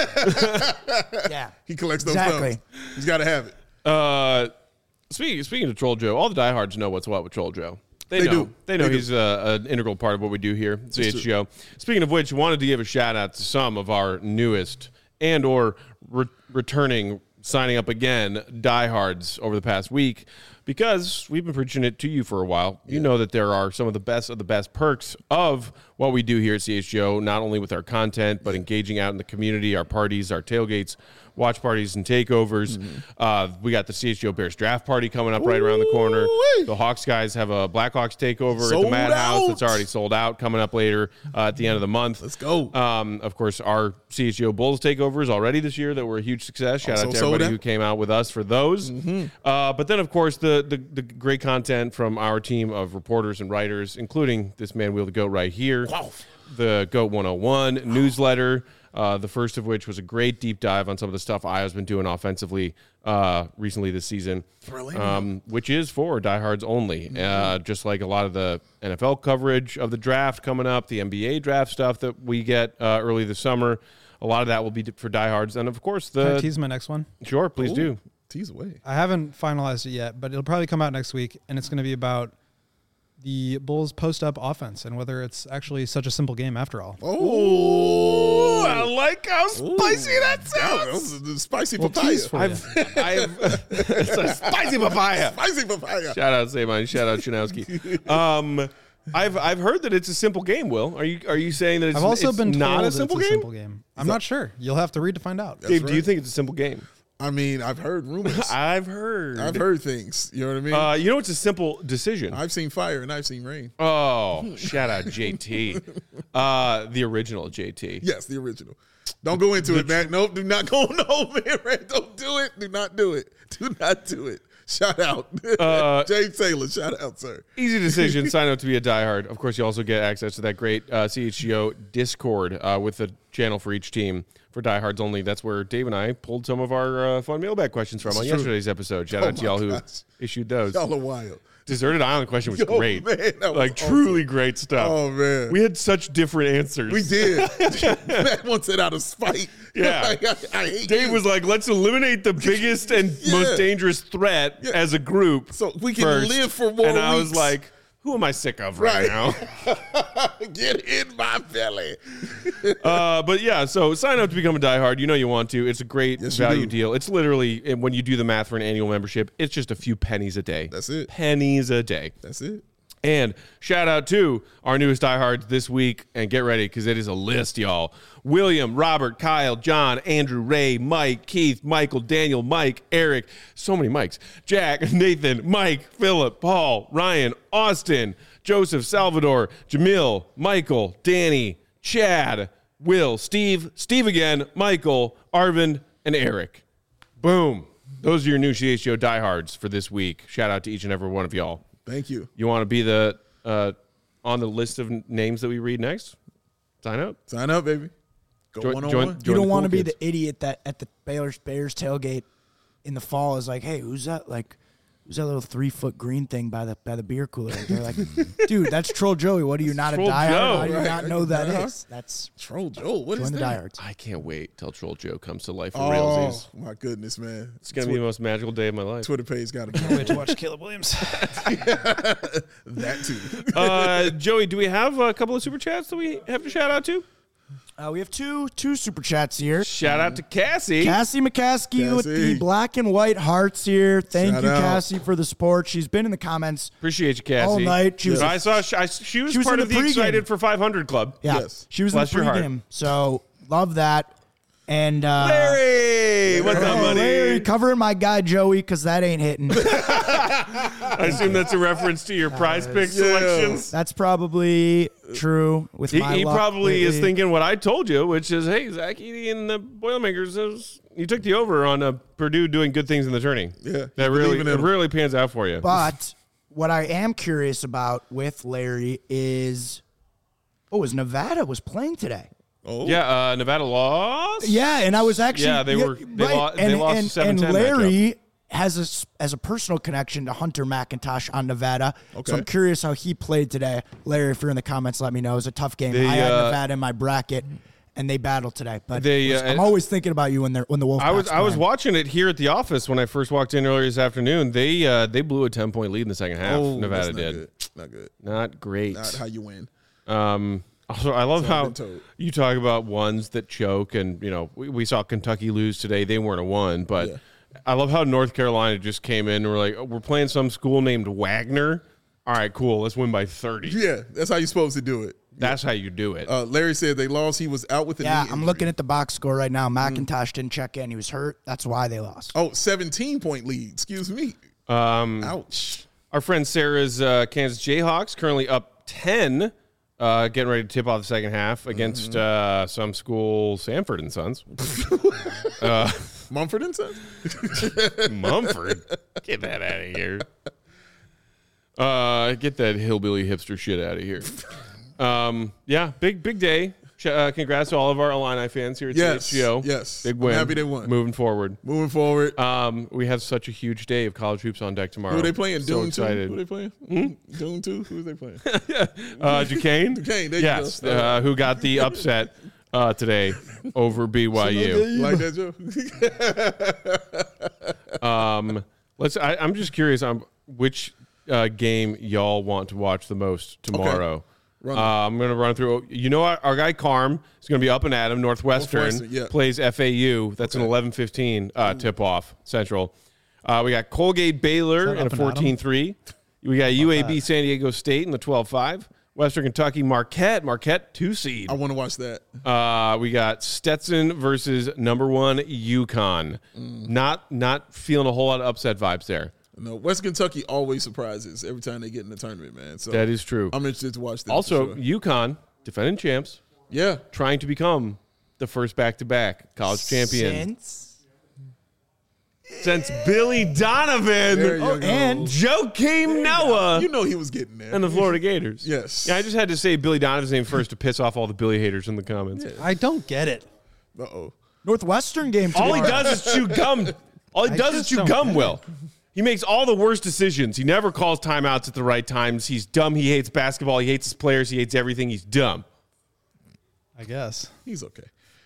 Yeah. He collects those Exactly. thumbs. He's got to have it. Uh, speaking speaking of Troll Joe, all the diehards know what's what with Troll Joe. They, They know. do. They know They do. he's uh, an integral part of what we do here at C H G O. Speaking of which, wanted to give a shout out to some of our newest and or re- returning, signing up again, diehards over the past week, because we've been preaching it to you for a while. You know that there are some of the best of the best perks of what we do here at C H G O, not only with our content, but engaging out in the community, our parties, our tailgates, watch parties, and takeovers. Mm-hmm. Uh, we got the C H G O Bears draft party coming up right around the corner. Ooh-wee. The Hawks guys have a Blackhawks takeover at Sold the Madhouse out. that's already sold out, coming up later uh, at the end of the month. Let's go. Um, of course, our C H G O Bulls takeovers already this year that were a huge success. Shout Also out to sold everybody out. who came out with us for those. Uh, but then, of course, the, the the great content from our team of reporters and writers, including this man wheel the goat right here, the Goat one oh one newsletter. Uh, the first of which was a great deep dive on some of the stuff Iowa's been doing offensively uh, recently this season, Thrilling. um, which is for diehards only. Uh, just like a lot of the N F L coverage of the draft coming up, the N B A draft stuff that we get uh, early this summer. A lot of that will be for diehards, and of course Can I the tease my next one? sure, please Ooh. do. Tease away. I haven't finalized it yet, but it'll probably come out next week, and it's going to be about the Bulls post-up offense and whether it's actually such a simple game after all. Oh, I like how spicy that That sounds. was the spicy Well, papaya. tease for you. I've, I've it's a spicy papaya. Spicy papaya. Shout out Saban. Shout out Chanowski. Um, I've I've heard that it's a simple game. Will, are you are you saying that it's, I've also it's been told not a it's simple a game? simple game. I'm not sure. You'll have to read to find out. Dave, do you right. think it's a simple game? I mean, I've heard rumors. I've heard. I've heard things. You know what I mean? Uh, you know, it's a simple decision. I've seen fire and I've seen rain. Oh, shout out J T, uh, the original J T. Yes, the original. Don't go into it, man. Nope, do not go. No, man, man, don't do it. Do not do it. Do not do it. Shout out. Uh, James Taylor, shout out, sir. Easy decision. Sign up to be a diehard. Of course, you also get access to that great uh, C H G O Discord uh, with a channel for each team for diehards only. That's where Dave and I pulled some of our uh, fun mailbag questions from It's on true. yesterday's episode. Shout Oh out to my y'all who gosh. issued those. Y'all are wild. Deserted Island question was Yo, great. man, that was like awesome. truly great stuff. Oh, man. We had such different answers. We did. Matt wants it out of spite. Yeah. Like, I, I hate Dave you. was like, let's eliminate the biggest and Yeah. most dangerous threat Yeah. as a group. So we can first. live for more And I was weeks. like, who am I sick of right, Right. now? Get in my belly. uh, but yeah, so sign up to become a diehard. You know you want to. It's a great Yes, you value do. deal. It's literally, and when you do the math for an annual membership, it's just a few pennies a day. That's it. Pennies a day. That's it. And shout out to our newest diehards this week, and get ready because it is a list, y'all. William, Robert, Kyle, John, Andrew, Ray, Mike, Keith, Michael, Daniel, Mike, Eric, so many Mikes, Jack, Nathan, Mike, Philip, Paul, Ryan, Austin, Joseph, Salvador, Jamil, Michael, Danny, Chad, Will, Steve, Steve again, Michael, Arvin, and Eric. Boom. Those are your new C H G O diehards for this week. Shout out to each and every one of y'all. Thank you. You want to be the uh, on the list of names that we read next? Sign up. Sign up, baby. Go Join- one on join- one. join You don't the want to cool be kids. the idiot that at the Bears Bears tailgate in the fall is like, hey, who's that? Like, who's that little three foot green thing by the by the beer cooler? They're like, dude, that's Troll Joey. What are you not Troll a diehard? Joe. How do you Right. not know that Uh-huh. is? That's Troll Joe. What is join the that? diehards. I can't wait till Troll Joe comes to life for Oh realsies. my goodness, man! It's gonna be the most magical day of my life. Twitter page got to Wait to watch Caleb Williams. that too. Uh, Joey, do we have a couple of super chats that we have to shout out to? Uh, we have two two super chats here. Shout out to Cassie. Cassie McCaskey with the Cassie. black and white hearts here. Thank Shout you, out. Cassie, for the support. She's been in the comments. Appreciate you, Cassie. All night. She was- I saw she, I, she was She was part in of the the pregame. Excited for five hundred Club. Yeah, Yes. she was Bless in your the heart. pregame. So love that. And uh, Larry! Hey, what's up, Oh, buddy? Larry, covering my guy Joey because that ain't hitting. I assume that's a reference to your prize pick selections. That's probably true with He, my he luck probably is lately. thinking what I told you, which is, hey, Zach Edey and the Boilermakers, is, you took the over on uh, Purdue doing good things in the tourney. Yeah, that you really believe in it him. really pans out for you. But what I am curious about with Larry is, oh, is Nevada was playing today. Oh, yeah, uh, Nevada lost. Yeah, and I was actually Yeah, they were- they right. lo- they and, lost and, seven and ten Larry has a s- as a personal connection to Hunter McIntosh on Nevada. Okay. So I'm curious how he played today. Larry, if you're in the comments, let me know. It was a tough game. They, I had uh, Nevada in my bracket, and they battled today. But They, listen, uh, I'm always thinking about you when they're when the Wolfpack's I was I was playing. watching it here at the office when I first walked in earlier this afternoon. They uh, they blew a ten point lead in the second half. oh Nevada that's not did Good. Not good. not great. Not how you win. Um, also, I love That's what I've how been told. you talk about ones that choke, and you know we, we saw Kentucky lose today. They weren't a one, but Yeah. I love how North Carolina just came in and we're like, oh, we're playing some school named Wagner. All right, cool. Let's win by thirty. Yeah, that's how you're supposed to do it. That's how you do it. Uh, Larry said they lost. He was out with a Yeah, knee I'm injury. looking at the box score right now. Mm. McIntosh didn't check in. He was hurt. That's why they lost. Oh, seventeen point lead. Excuse me. Um, Ouch. Our friend Sarah's uh, Kansas Jayhawks currently up ten, uh, getting ready to tip off the second half against Mm-hmm. uh, some school, Sanford and Sons. Mumford and Sons? Mumford, get that out of here. Uh, get that hillbilly hipster shit out of here. Um, yeah, big big day. Ch- Uh, congrats to all of our Illini fans here at Yes, C H G O. yes. big I'm win. happy they won. Moving forward. Moving forward. Um, we have such a huge day of college hoops on deck tomorrow. Who are they playing? So Dune excited. two? Who are they playing? Dune two? Who are they playing? Uh, Duquesne? Duquesne, there you yes, go. uh, who got the upset uh, today over B Y U. You like that, Joe? Um, let's. I, I'm just curious on which uh, game y'all want to watch the most tomorrow. Run Uh, I'm going to run through. You know, our, our guy Carm is going to be up and at him. Northwestern, Northwestern, yeah. plays F A U. That's an eleven fifteen uh, tip off Central. Uh, we got Colgate Baylor Is that in a up and at 'em? fourteen three. We got U A B San Diego State in the twelve five. Western Kentucky Marquette. Marquette two seed. I want to watch that. Uh, we got Stetson versus number one UConn. Mm. Not not feeling a whole lot of upset vibes there. No, West Kentucky always surprises every time they get in the tournament, man. So That is true. I'm interested to watch that. Also, for sure. UConn, defending champs, yeah, trying to become the first back-to-back college champion Since since Billy Donovan, There you Oh, go. and Joakim Noah, you know he was getting there. and the Florida Gators. Yes. Yeah, I just had to say Billy Donovan's name first to piss off all the Billy haters in the comments. I don't get it. Uh oh. Northwestern game All tomorrow. he does is chew gum. All he I does is just chew don't gum, get Will. He makes all the worst decisions. He never calls timeouts at the right times. He's dumb. He hates basketball. He hates his players. He hates everything. He's dumb. I guess. He's okay.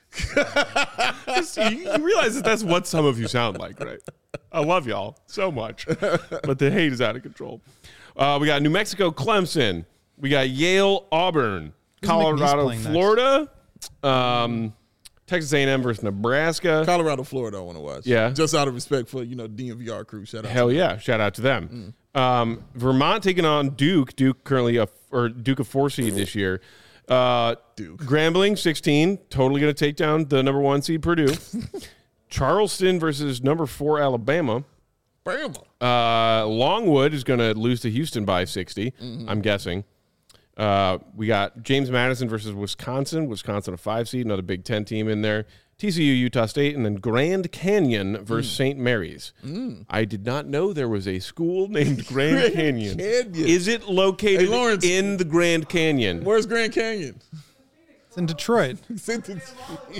you, you realize that that's what some of you sound like, right? I love y'all so much, but the hate is out of control. Uh, we got New Mexico, Clemson. We got Yale, Auburn, Who's McNeese Colorado, playing next? Florida, um, Texas A and M versus Nebraska. Colorado, Florida, I want to watch. Yeah. Just out of respect for, you know, D M V R crew. Shout out. Hell to yeah! Shout out to them. Um, Vermont taking on Duke. Duke currently a or Duke a four seed this year. Uh, Duke. Grambling sixteen, totally going to take down the number one seed Purdue. Charleston versus number four Alabama. Bama. Uh, Longwood is going to lose to Houston by sixty. I'm guessing. Uh, we got James Madison versus Wisconsin. Wisconsin a five seed, another Big Ten team in there. T C U, Utah State, and then Grand Canyon versus Saint Mary's. I did not know there was a school named Grand, Grand Canyon. Canyon. Is it located Hey, Lawrence. in the Grand Canyon? Where's Grand Canyon? It's in Detroit. Sent it-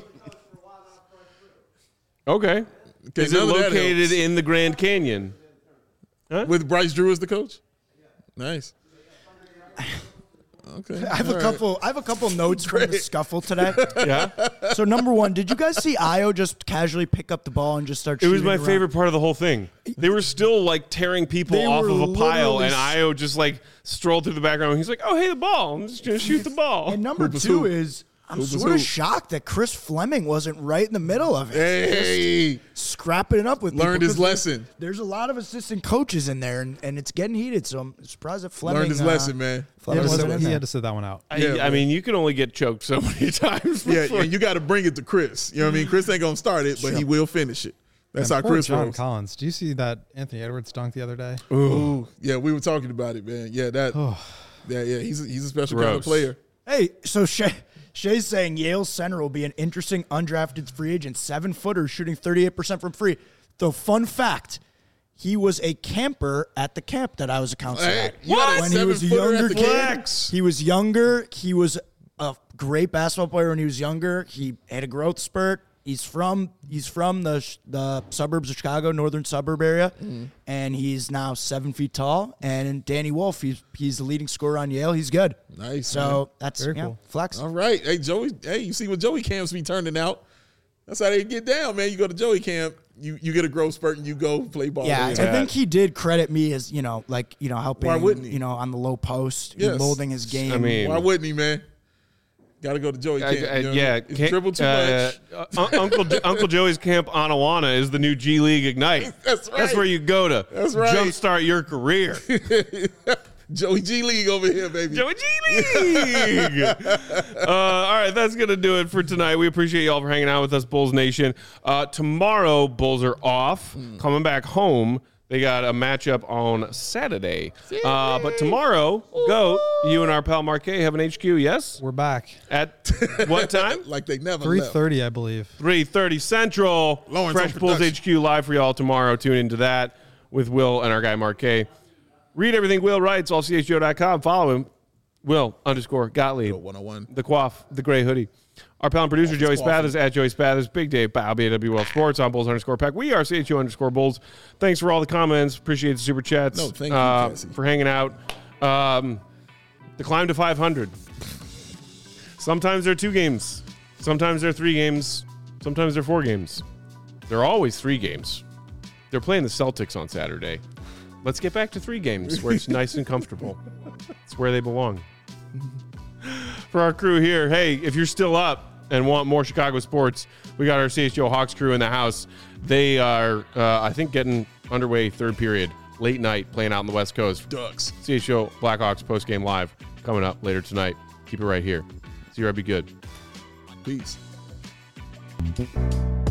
Okay. Okay, Is it none of that located helps. in the Grand Canyon? With Bryce Drew as the coach? Nice. Okay. I have a couple. I have a couple notes from the scuffle today. Yeah. So number one, did you guys see Io just casually pick up the ball and just start? It was shooting my around? favorite part of the whole thing. They were still like tearing people They off were of a pile, literally and s- Io just like strolled through the background. He's like, "Oh, hey, the ball! I'm just gonna shoot the ball." And number Hoop is two hoop. is I'm Hoop is sort of hoop. shocked that Chris Fleming wasn't right in the middle of it. Hey, Scrapping it up with learned people, his 'cause lesson. There's a lot of assistant coaches in there, and, and it's getting heated. So I'm surprised that Fleming Learned his uh, lesson, man. He Fleming had, to wasn't sit, in he there. had to sit that one out. I, Yeah, I man. mean, you can only get choked so many times. Yeah, before- and you got to bring it to Chris. You know what I mean? Chris ain't gonna start it, but he will finish it. That's And how poor Chris John rolls. Collins. Do you see that Anthony Edwards dunk the other day? Ooh, yeah, we were talking about it, man. Yeah, that. Yeah, yeah, he's a, he's a special kind of Gross. player. Hey, so Shay, Shay's saying Yale center will be an interesting undrafted free agent, seven footer shooting thirty-eight percent from free. The fun fact, he was a camper at the camp that I was a counselor Hey, at. you got a When he was a seven-footer at younger the kid, camp? he was younger. He was a great basketball player when he was younger. He had a growth spurt. He's from he's from the sh- the suburbs of Chicago, northern suburb area, Mm-hmm. and he's now seven feet tall. And Danny Wolf, he's he's the leading scorer on Yale. He's good. Nice, So man. that's Very yeah, cool. flex. All right, hey Joey. Hey, you see what Joey camps be turning out? That's how they get down, man. You go to Joey camp, you you get a growth spurt, and you go play ball. Yeah, there. I think he did credit me as you know, like you know, helping. Why wouldn't he? You know, on the low post, Yes. molding his game. I mean, Why wouldn't he, man? Got to go to Joey I- camp. I- you know? yeah, It's can't- dribble too uh, much. uh, Un- Uncle Jo- Uncle Joey's camp on Awana is the new G League Ignite. That's right. That's where you go to That's right. jumpstart your career. Joey G League over here, baby. Joey G League. uh, all right, that's gonna do it for tonight. We appreciate y'all for hanging out with us, Bulls Nation. Uh, tomorrow, Bulls are off, coming back home. They got a matchup on Saturday. Uh, but tomorrow, Goat, you and our pal Marquet have an H Q, yes? We're back. At what time? like they never three left. thirty, I believe. three thirty Central. Lawrence Fresh on Bulls production. H Q live for y'all tomorrow. Tune into that with Will and our guy Marquet. Read everything Will writes, all C H G O dot com. Follow him, Will underscore Gottlieb. one oh one. The Quaff, the gray hoodie. Our pal and producer, Joey Spathers, at Joey Spathers. Big Dave, Bow, B A W L Sports, on Bulls underscore Pack. We are C H O underscore Bulls. Thanks for all the comments. Appreciate the super chats. No, thank you, uh, Cassie. for hanging out. Um, the climb to five hundred. Sometimes they're two games. Sometimes they're three games. Sometimes they're four games. They're always three games. They're playing the Celtics on Saturday. Let's get back to three games where it's nice and comfortable. It's where they belong. For our crew here, hey, if you're still up and want more Chicago sports, we got our C H G O Hawks crew in the house. They are, uh, I think, getting underway third period, late night, playing out on the West Coast. Ducks. C H G O Blackhawks post-game live coming up later tonight. Keep it right here. See you, be good. Peace.